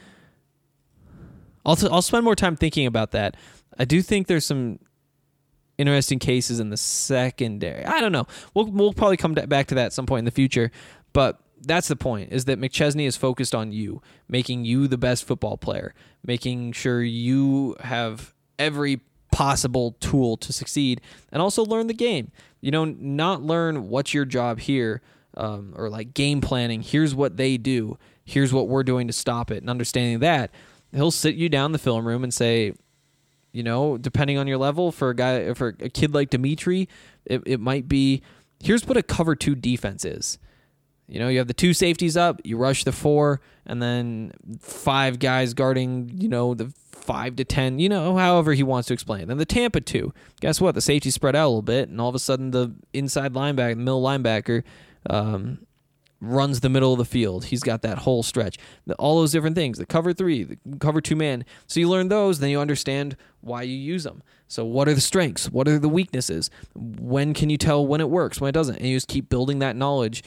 I'll t- I'll spend more time thinking about that. I do think there's some interesting cases in the secondary. I don't know. We'll we'll probably come back to that at some point in the future, but that's the point, is that McChesney is focused on you, making you the best football player, making sure you have every possible tool to succeed, and also learn the game. You know, not learn what's your job here, um, or like game planning. Here's what they do. Here's what we're doing to stop it. And understanding that, he'll sit you down in the film room and say, you know, depending on your level, for a guy, for a kid like Dimitri, it, it might be, here's what a cover two defense is. You know, you have the two safeties up, you rush the four, and then five guys guarding, you know, the five to ten, you know, however he wants to explain it. Then the Tampa two, guess what? The safety spread out a little bit, and all of a sudden the inside linebacker, the middle linebacker, um, runs the middle of the field. He's got that whole stretch. The, all those different things, the cover three, the cover two man. So you learn those, then you understand why you use them. So what are the strengths? What are the weaknesses? When can you tell when it works, when it doesn't? And you just keep building that knowledge.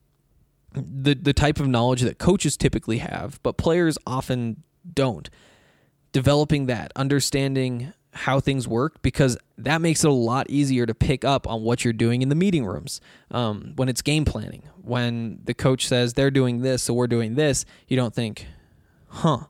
The the type of knowledge that coaches typically have, but players often don't. Developing that, understanding how things work, because that makes it a lot easier to pick up on what you're doing in the meeting rooms. Um, when it's game planning, when the coach says they're doing this, so we're doing this, you don't think, huh,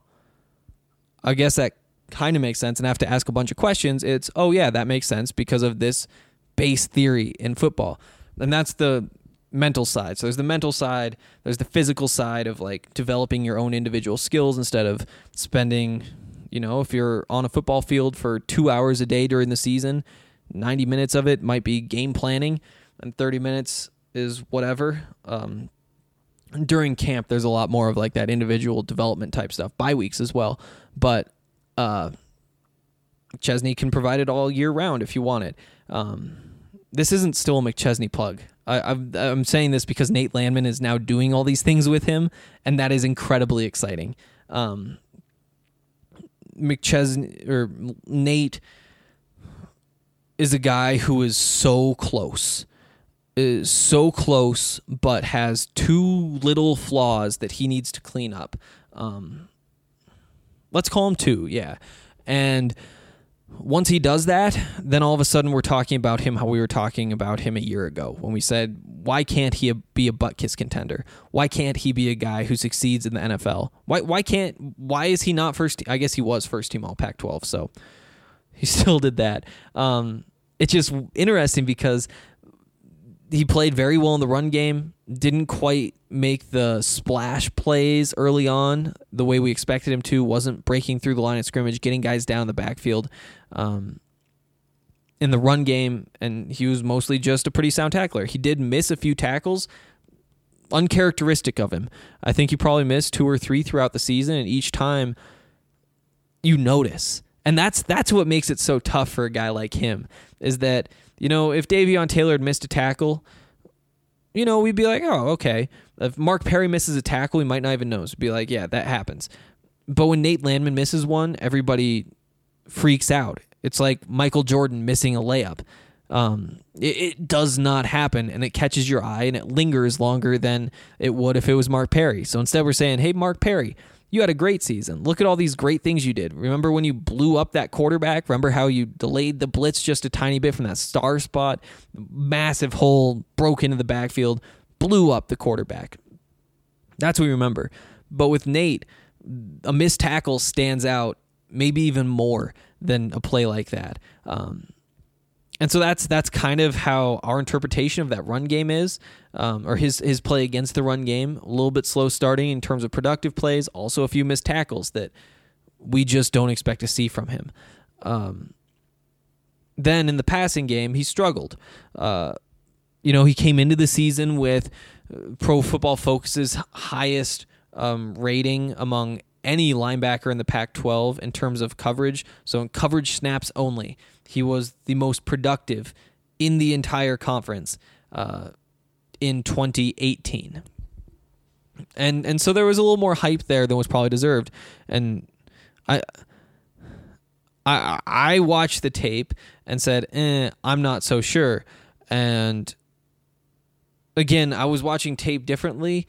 I guess that kind of makes sense, and I have to ask a bunch of questions. It's, oh yeah, that makes sense because of this base theory in football. And that's the mental side. So there's the mental side, there's the physical side of like developing your own individual skills instead of spending, you know, if you're on a football field for two hours a day during the season, ninety minutes of it might be game planning and thirty minutes is whatever. Um, during camp, there's a lot more of like that individual development type stuff, bye weeks as well. But uh, Chesney can provide it all year round if you want it. Um, this isn't still a McChesney plug. I, I'm, I'm saying this because Nate Landman is now doing all these things with him, and that is incredibly exciting. Um, McChesney or Nate is a guy who is so close, is so close, but has two little flaws that he needs to clean up. Um, let's call him two, yeah. And once he does that, then all of a sudden we're talking about him how we were talking about him a year ago when we said, why can't he be a butt kiss contender? Why can't he be a guy who succeeds in the N F L? Why why can't why is he not first? I guess he was first team all Pac twelve, so he still did that. Um, it's just interesting because he played very well in the run game, didn't quite make the splash plays early on the way we expected him to, wasn't breaking through the line of scrimmage, getting guys down in the backfield um, in the run game, and he was mostly just a pretty sound tackler. He did miss a few tackles, uncharacteristic of him. I think he probably missed two or three throughout the season, and each time you notice. And that's that's what makes it so tough for a guy like him, is that, you know, if Davion Taylor had missed a tackle, you know, we'd be like, oh, okay. If Mark Perry misses a tackle, we might not even know. We'd be like, yeah, that happens. But when Nate Landman misses one, everybody freaks out. It's like Michael Jordan missing a layup. Um, it, it does not happen, and it catches your eye, and it lingers longer than it would if it was Mark Perry. So instead we're saying, hey, Mark Perry, you had a great season. Look at all these great things you did. Remember when you blew up that quarterback? Remember how you delayed the blitz just a tiny bit from that star spot? Massive hole, broke into the backfield, blew up the quarterback. That's what we remember. But with Nate, a missed tackle stands out maybe even more than a play like that. Um, and so that's that's kind of how our interpretation of that run game is, um, or his his play against the run game. A little bit slow starting in terms of productive plays, also a few missed tackles that we just don't expect to see from him. Um, then in the passing game, he struggled. Uh, you know, he came into the season with Pro Football Focus's highest um, rating among any linebacker in the Pac twelve in terms of coverage. So in coverage snaps only, he was the most productive in the entire conference uh, in twenty eighteen. And and so there was a little more hype there than was probably deserved. And I I I watched the tape and said, eh, I'm not so sure. And again, I was watching tape differently.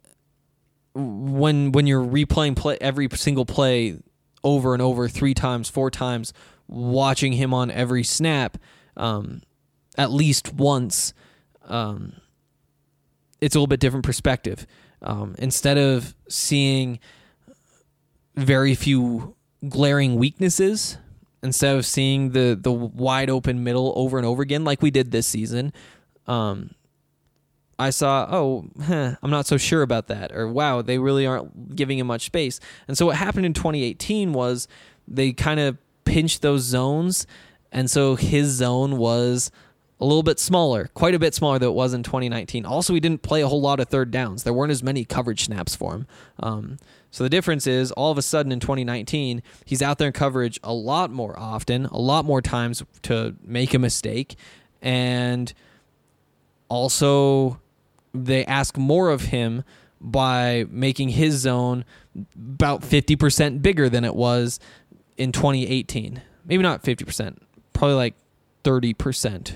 When when you're replaying play, every single play over and over, three times, four times, watching him on every snap, um, at least once, um, it's a little bit different perspective. Um, instead of seeing very few glaring weaknesses, instead of seeing the the wide open middle over and over again like we did this season, um, I saw, oh, huh, I'm not so sure about that. Or, wow, they really aren't giving him much space. And so what happened in twenty eighteen was they kind of pinched those zones, and so his zone was a little bit smaller, quite a bit smaller than it was in twenty nineteen. Also, he didn't play a whole lot of third downs. There weren't as many coverage snaps for him. Um, so the difference is, all of a sudden in twenty nineteen, he's out there in coverage a lot more often, a lot more times to make a mistake, and also they ask more of him by making his zone about fifty percent bigger than it was in twenty eighteen. Maybe not fifty percent, probably like thirty percent.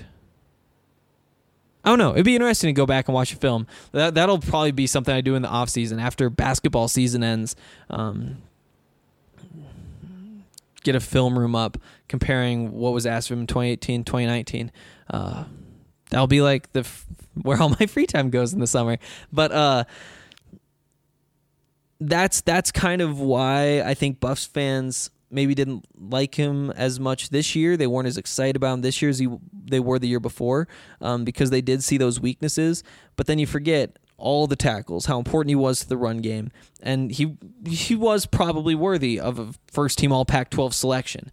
I don't know. It'd be interesting to go back and watch a film. That, that'll probably be something I do in the off season after basketball season ends. Um, get a film room up comparing what was asked of him in twenty eighteen, twenty nineteen. Uh, that'll be like the where all my free time goes in the summer. But uh, that's that's kind of why I think Buffs fans maybe didn't like him as much this year. They weren't as excited about him this year as he, they were the year before, um, because they did see those weaknesses. But then you forget all the tackles, how important he was to the run game, and he he was probably worthy of a first-team All Pac twelve selection.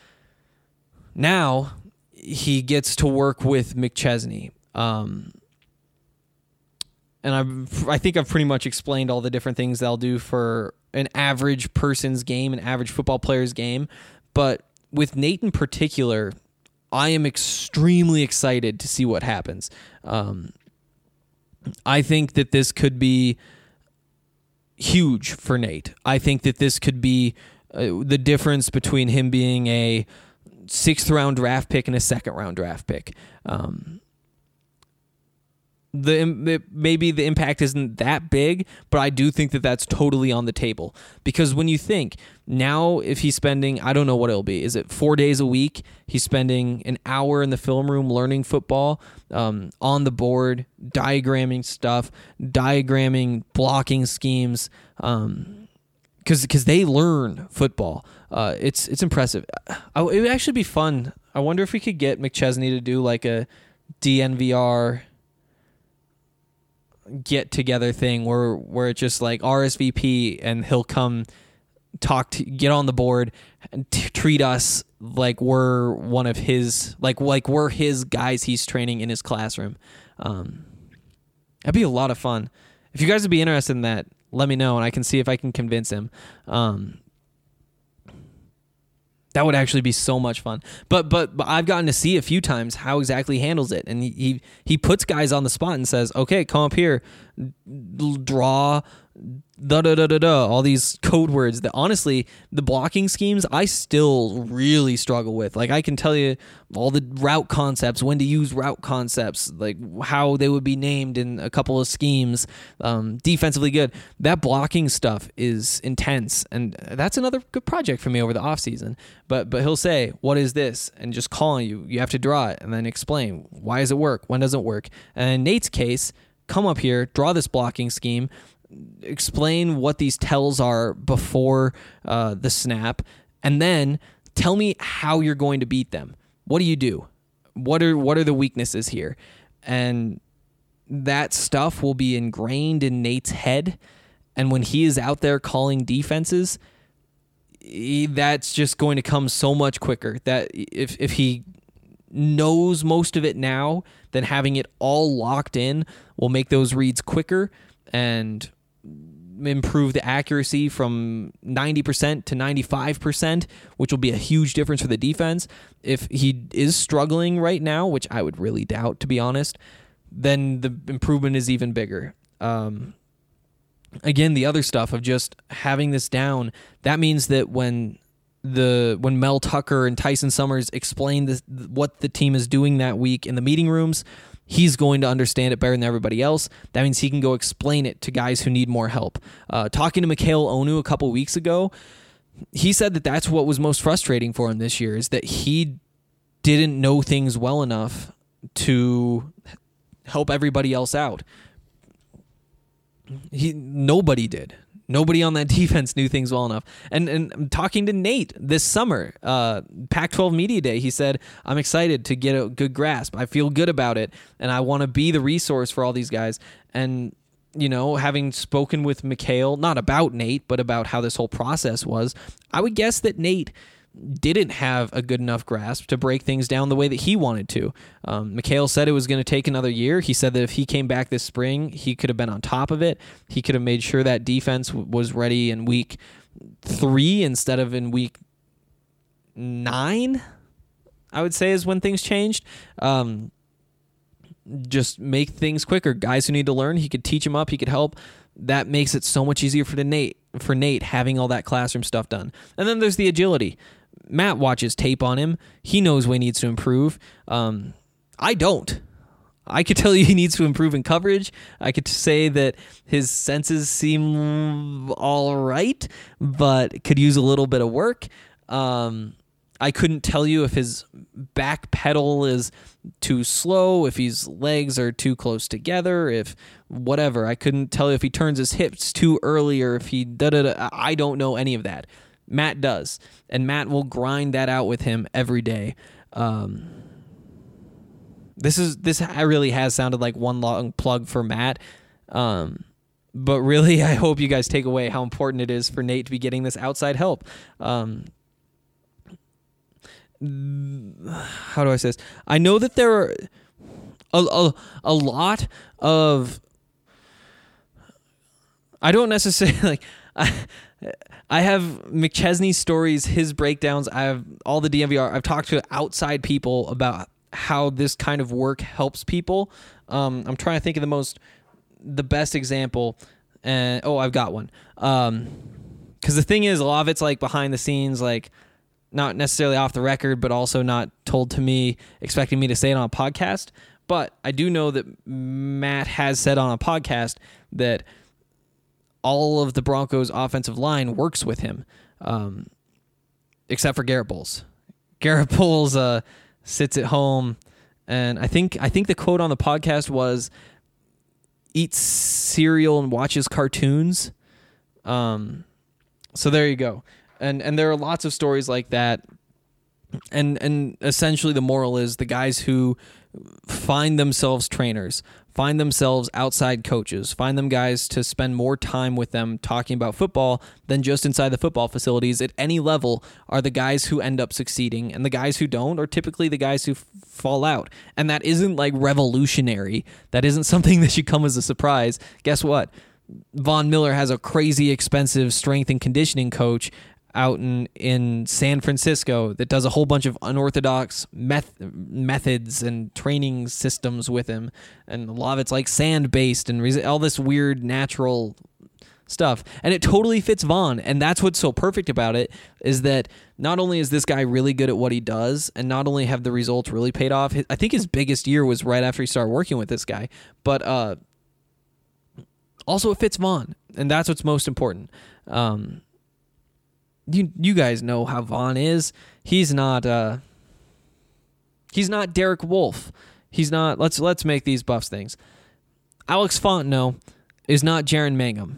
Now he gets to work with McChesney. Um, and I've, I think I've pretty much explained all the different things they'll do for an average person's game, an average football player's game. But with Nate in particular, I am extremely excited to see what happens. Um, I think that this could be huge for Nate. I think that this could be uh, the difference between him being a sixth round draft pick and a second round draft pick. Um, the maybe the impact isn't that big, but I do think that that's totally on the table, because when you think now, if he's spending, I don't know what it'll be, is it four days a week? He's spending an hour in the film room learning football, um, on the board, diagramming stuff, diagramming blocking schemes, um, because because they learn football. Uh, it's it's impressive. I, it would actually be fun. I wonder if we could get McChesney to do like a D N V R get together thing where where it's just like R S V P and he'll come talk to get on the board and t- treat us like we're one of his like like we're his guys he's training in his classroom. Um, that'd be a lot of fun. If you guys would be interested in that, let me know and I can see if I can convince him. Um, That would actually be so much fun. But but but I've gotten to see a few times how exactly he handles it, and he he, he puts guys on the spot and says, "Okay, come up here, draw." Da da da da da. All these code words that honestly, the blocking schemes I still really struggle with. Like I can tell you all the route concepts, when to use route concepts, like how they would be named in a couple of schemes. Um, defensively good. That blocking stuff is intense, and that's another good project for me over the offseason. But but he'll say, "What is this?" and just call you. You have to draw it and then explain why does it work, when does it work. And in Nate's case, come up here, draw this blocking scheme. Explain what these tells are before uh, the snap, and then tell me how you're going to beat them. What do you do? What are what are the weaknesses here? And that stuff will be ingrained in Nate's head. And when he is out there calling defenses, he, that's just going to come so much quicker. That if if he knows most of it now, then having it all locked in will make those reads quicker and improve the accuracy from ninety percent to ninety-five percent, which will be a huge difference for the defense. If he is struggling right now, which I would really doubt, to be honest, then the improvement is even bigger. Um, again, the other stuff of just having this down, that means that when the when Mel Tucker and Tyson Summers explain this, what the team is doing that week in the meeting rooms, he's going to understand it better than everybody else. That means he can go explain it to guys who need more help. Uh, talking to Mikhail Onu a couple weeks ago, he said that that's what was most frustrating for him this year, is that he didn't know things well enough to help everybody else out. He nobody did. Nobody on that defense knew things well enough. And and talking to Nate this summer, uh, Pac twelve Media Day, he said, I'm excited to get a good grasp. I feel good about it, and I want to be the resource for all these guys. And, you know, having spoken with Mikhail, not about Nate, but about how this whole process was, I would guess that Nate didn't have a good enough grasp to break things down the way that he wanted to. Um, Mikhail said it was going to take another year. He said that if he came back this spring, he could have been on top of it. He could have made sure that defense w- was ready in week three instead of in week nine, I would say, is when things changed. Um, just make things quicker. Guys who need to learn, he could teach them up, he could help. That makes it so much easier for the Nate, for Nate having all that classroom stuff done. And then there's the agility. Matt watches tape on him. He knows where he needs to improve. Um, I don't. I could tell you he needs to improve in coverage. I could say that his senses seem all right, but could use a little bit of work. Um, I couldn't tell you if his back pedal is too slow, if his legs are too close together, if whatever. I couldn't tell you if he turns his hips too early or if he da-da-da. I don't know any of that. Matt does, and Matt will grind that out with him every day. Um, this is this really has sounded like one long plug for Matt, um, but really I hope you guys take away how important it is for Nate to be getting this outside help. Um, how do I say this? I know that there are a, a, a lot of, I don't necessarily, like, I, I have McChesney's stories, his breakdowns. I have all the D M V R. I've talked to outside people about how this kind of work helps people. Um, I'm trying to think of the most, the best example. And oh, I've got one. Um, because the thing is, a lot of it's like behind the scenes, like not necessarily off the record, but also not told to me, expecting me to say it on a podcast. But I do know that Matt has said on a podcast that all of the Broncos' offensive line works with him, um, except for Garrett Bowles. Garrett Bowles uh, sits at home, and I think I think the quote on the podcast was, "Eats cereal and watches cartoons." Um, so there you go, and and there are lots of stories like that, and and essentially the moral is the guys who find themselves trainers, find themselves outside coaches, find them guys to spend more time with them talking about football than just inside the football facilities at any level are the guys who end up succeeding, and the guys who don't are typically the guys who f- fall out. And that isn't like revolutionary. That isn't something that should come as a surprise. Guess what? Von Miller has a crazy expensive strength and conditioning coach out in, in San Francisco that does a whole bunch of unorthodox meth- methods and training systems with him. And a lot of it's like sand-based and res- all this weird natural stuff. And it totally fits Vaughn. And that's what's so perfect about it, is that not only is this guy really good at what he does, and not only have the results really paid off, I think his biggest year was right after he started working with this guy, but uh, also it fits Vaughn. And that's what's most important. Um, You you guys know how Vaughn is. He's not uh he's not Derek Wolfe. He's not let's let's make these Buffs things. Alex Fontenot is not Jaron Mangum.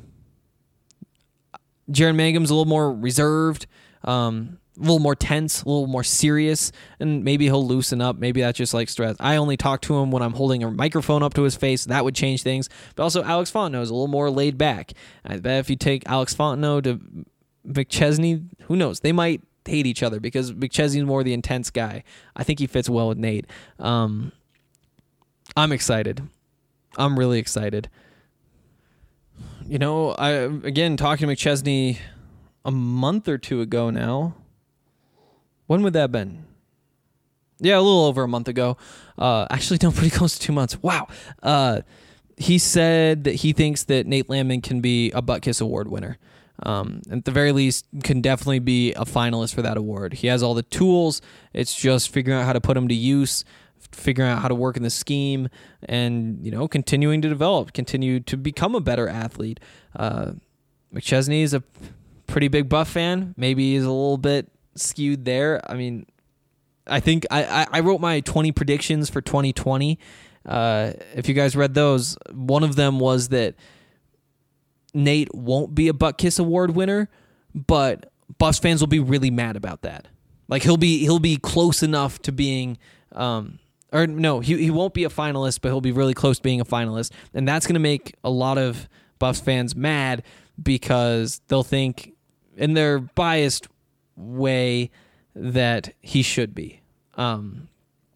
Jaron Mangum's a little more reserved, um, a little more tense, a little more serious, and maybe he'll loosen up. Maybe that's just like stress. I only talk to him when I'm holding a microphone up to his face. That would change things. But also Alex Fontenot is a little more laid back. I bet if you take Alex Fontenot to McChesney, who knows? They might hate each other because McChesney's more the intense guy. I think he fits well with Nate. Um, I'm excited. I'm really excited. You know, I again talking to McChesney a month or two ago now. When would that have been? Yeah, a little over a month ago. Uh, actually, no, pretty close to two months. Wow. Uh, he said that he thinks that Nate Landman can be a Butt Kiss Award winner. Um, at the very least, can definitely be a finalist for that award. He has all the tools. It's just figuring out how to put them to use, figuring out how to work in the scheme, and, you know, continuing to develop, continue to become a better athlete. Uh, McChesney is a pretty big Buff fan. Maybe he's a little bit skewed there. I mean, I think I, I wrote my twenty predictions for twenty twenty. Uh, if you guys read those, one of them was that Nate won't be a Butt Kiss Award winner, but Buffs fans will be really mad about that. Like he'll be he'll be close enough to being, um, or no, he he won't be a finalist, but he'll be really close to being a finalist, and that's going to make a lot of Buffs fans mad because they'll think, in their biased way, that he should be. Um,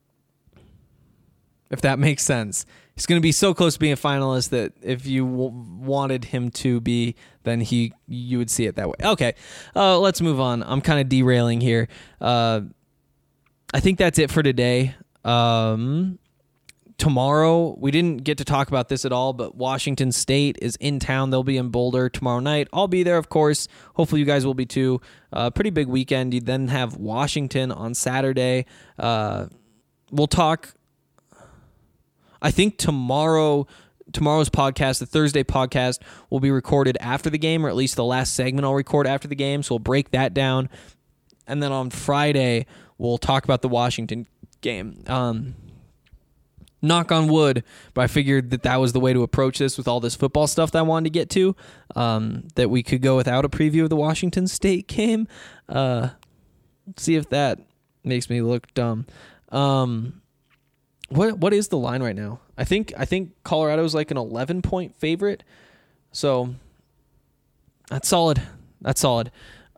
if that makes sense. He's going to be so close to being a finalist that if you w- wanted him to be, then he you would see it that way. Okay, uh, let's move on. I'm kind of derailing here. Uh, I think that's it for today. Um, tomorrow, we didn't get to talk about this at all, but Washington State is in town. They'll be in Boulder tomorrow night. I'll be there, of course. Hopefully you guys will be too. Uh, pretty big weekend. You then have Washington on Saturday. Uh, we'll talk... I think tomorrow, tomorrow's podcast, the Thursday podcast, will be recorded after the game, or at least the last segment I'll record after the game, so we'll break that down. And then on Friday, we'll talk about the Washington game. Um, knock on wood, but I figured that that was the way to approach this with all this football stuff that I wanted to get to, um, that we could go without a preview of the Washington State game. Uh, see if that makes me look dumb. Um... What what is the line right now? I think I think Colorado's like an eleven point favorite. So that's solid. That's solid.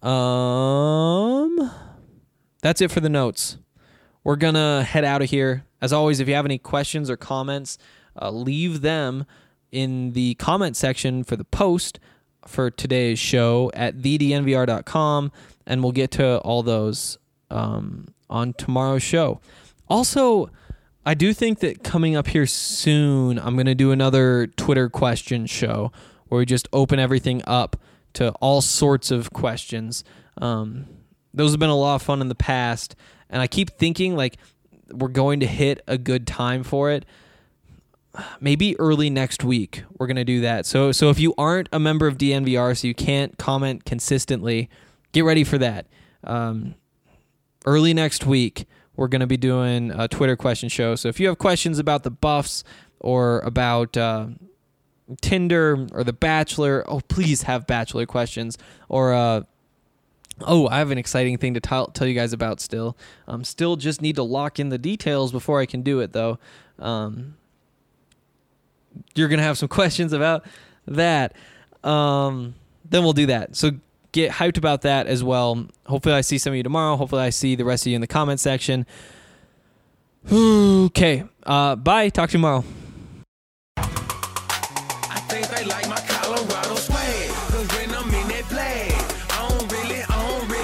Um That's it for the notes. We're going to head out of here. As always, if you have any questions or comments, uh, leave them in the comment section for the post for today's show at the d n v r dot com, and we'll get to all those um, on tomorrow's show. Also, I do think that coming up here soon, I'm going to do another Twitter question show where we just open everything up to all sorts of questions. Um, those have been a lot of fun in the past, and I keep thinking like we're going to hit a good time for it. Maybe early next week we're going to do that. So so if you aren't a member of D N V R, so you can't comment consistently, get ready for that. Um, early next week, we're going to be doing a Twitter question show. So if you have questions about the Buffs or about uh, Tinder or The Bachelor, oh, please have Bachelor questions. Or, uh, oh, I have an exciting thing to tell tell you guys about still. Um, still just need to lock in the details before I can do it, though. Um, you're going to have some questions about that. Um, then we'll do that. So get hyped about that as well. Hopefully I see some of you tomorrow. Hopefully I see the rest of you in the comment section. Okay. Uh, bye. Talk to you tomorrow. I think they like my Colorado swag, 'cause when I'm in that flag, I don't really, I don't really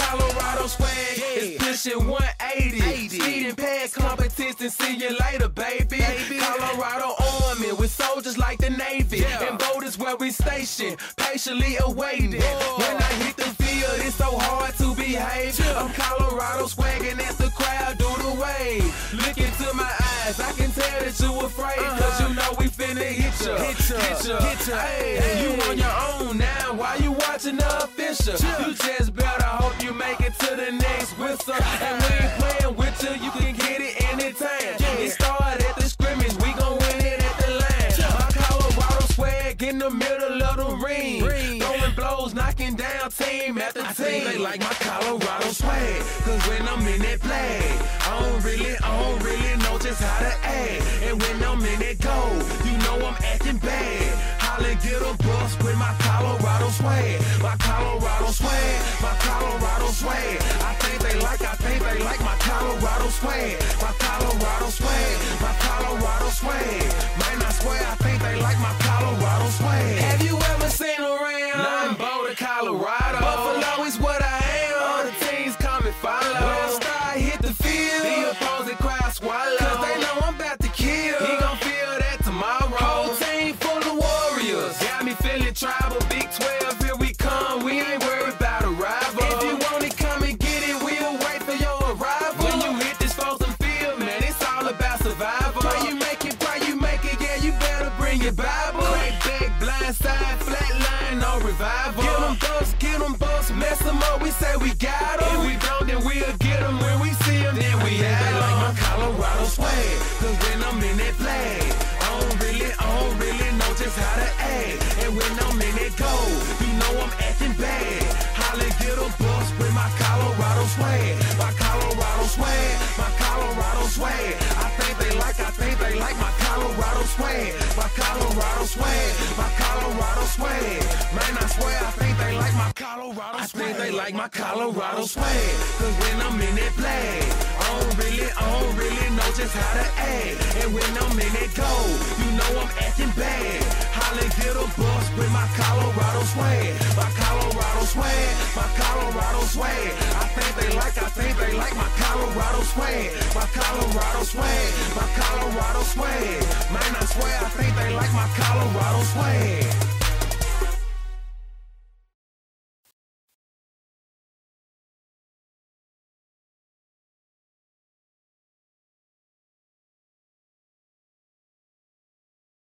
Colorado swag is pushing one eighty. Speeding past competition, see you later, baby. Colorado Army with soldiers like the Navy. And boat is where we station, patiently awaiting. When I hit the field, it's so hard to behave. I'm Colorado swagging as the crowd do the wave. Look into my eyes, I can tell that you afraid. Cause you know we finna hit ya, hit ya, hit ya, hit ya. Hey, you on your own now, why you watching the official? You just better hope you make it to the next whistle. And we ain't playing with you, you can get it anytime. It started at the scrimmage, we gon' win it at the line. My Colorado swag in the middle of the ring. Throwing blows, knocking down team after team. I think they like my Colorado swag, cause when I'm in that play, I don't really, I don't really know just how to act. And when I'm in that goal, you know I'm acting bad. Holla, get a bus with my Colorado swag. My Colorado swag, my Colorado swag. I think they like, I think they like my Colorado swag. My Colorado swag, my Colorado swag. Man, I swear I think they like my Colorado swag. Have you ever seen around? Nothing Boulder, Colorado. Buffalo is what I am. All the teams come and follow. When I start hit the field, the opposing crowd swallow. Cause they know I'm about to kill. He gon' feel that tomorrow. Whole team full of warriors. Got me feeling tribal. Big twelve, here we come. We ain't worried about a rival. If you want it, come and get it. We'll wait for your arrival. When you hit this frozen field, man, it's all about survival. Pray you make it, pray you make it. Yeah, you better bring your Bible. Crack back, blind side, flat line, no revival. Get them bucks, get them bucks, mess them up. We say we got them. If we don't, then we'll get them. When we see them, then we have them. They like my Colorado swag, cause when I'm in that flag, I don't really, I don't really know just how to act. And when I'm in that goal, you know I'm acting bad. Holla, get a bus with my Colorado swag. My Colorado swag, my Colorado swag. I think they like, I think they like my Colorado swag. My Colorado swag, my Colorado swag. Man, I swear I think they like my Colorado swag. I think they like my Colorado swag. Cause when I'm in that flag, I don't really, I don't really know just how to act. And when I'm in that goal, you know I'm acting bad. Holla, get a bus with my Colorado swag. My Colorado swag, my Colorado swag. I think they like, I think they like my Colorado swag. My Colorado swag, my Colorado swag. Man, I swear I think they like my Colorado swag.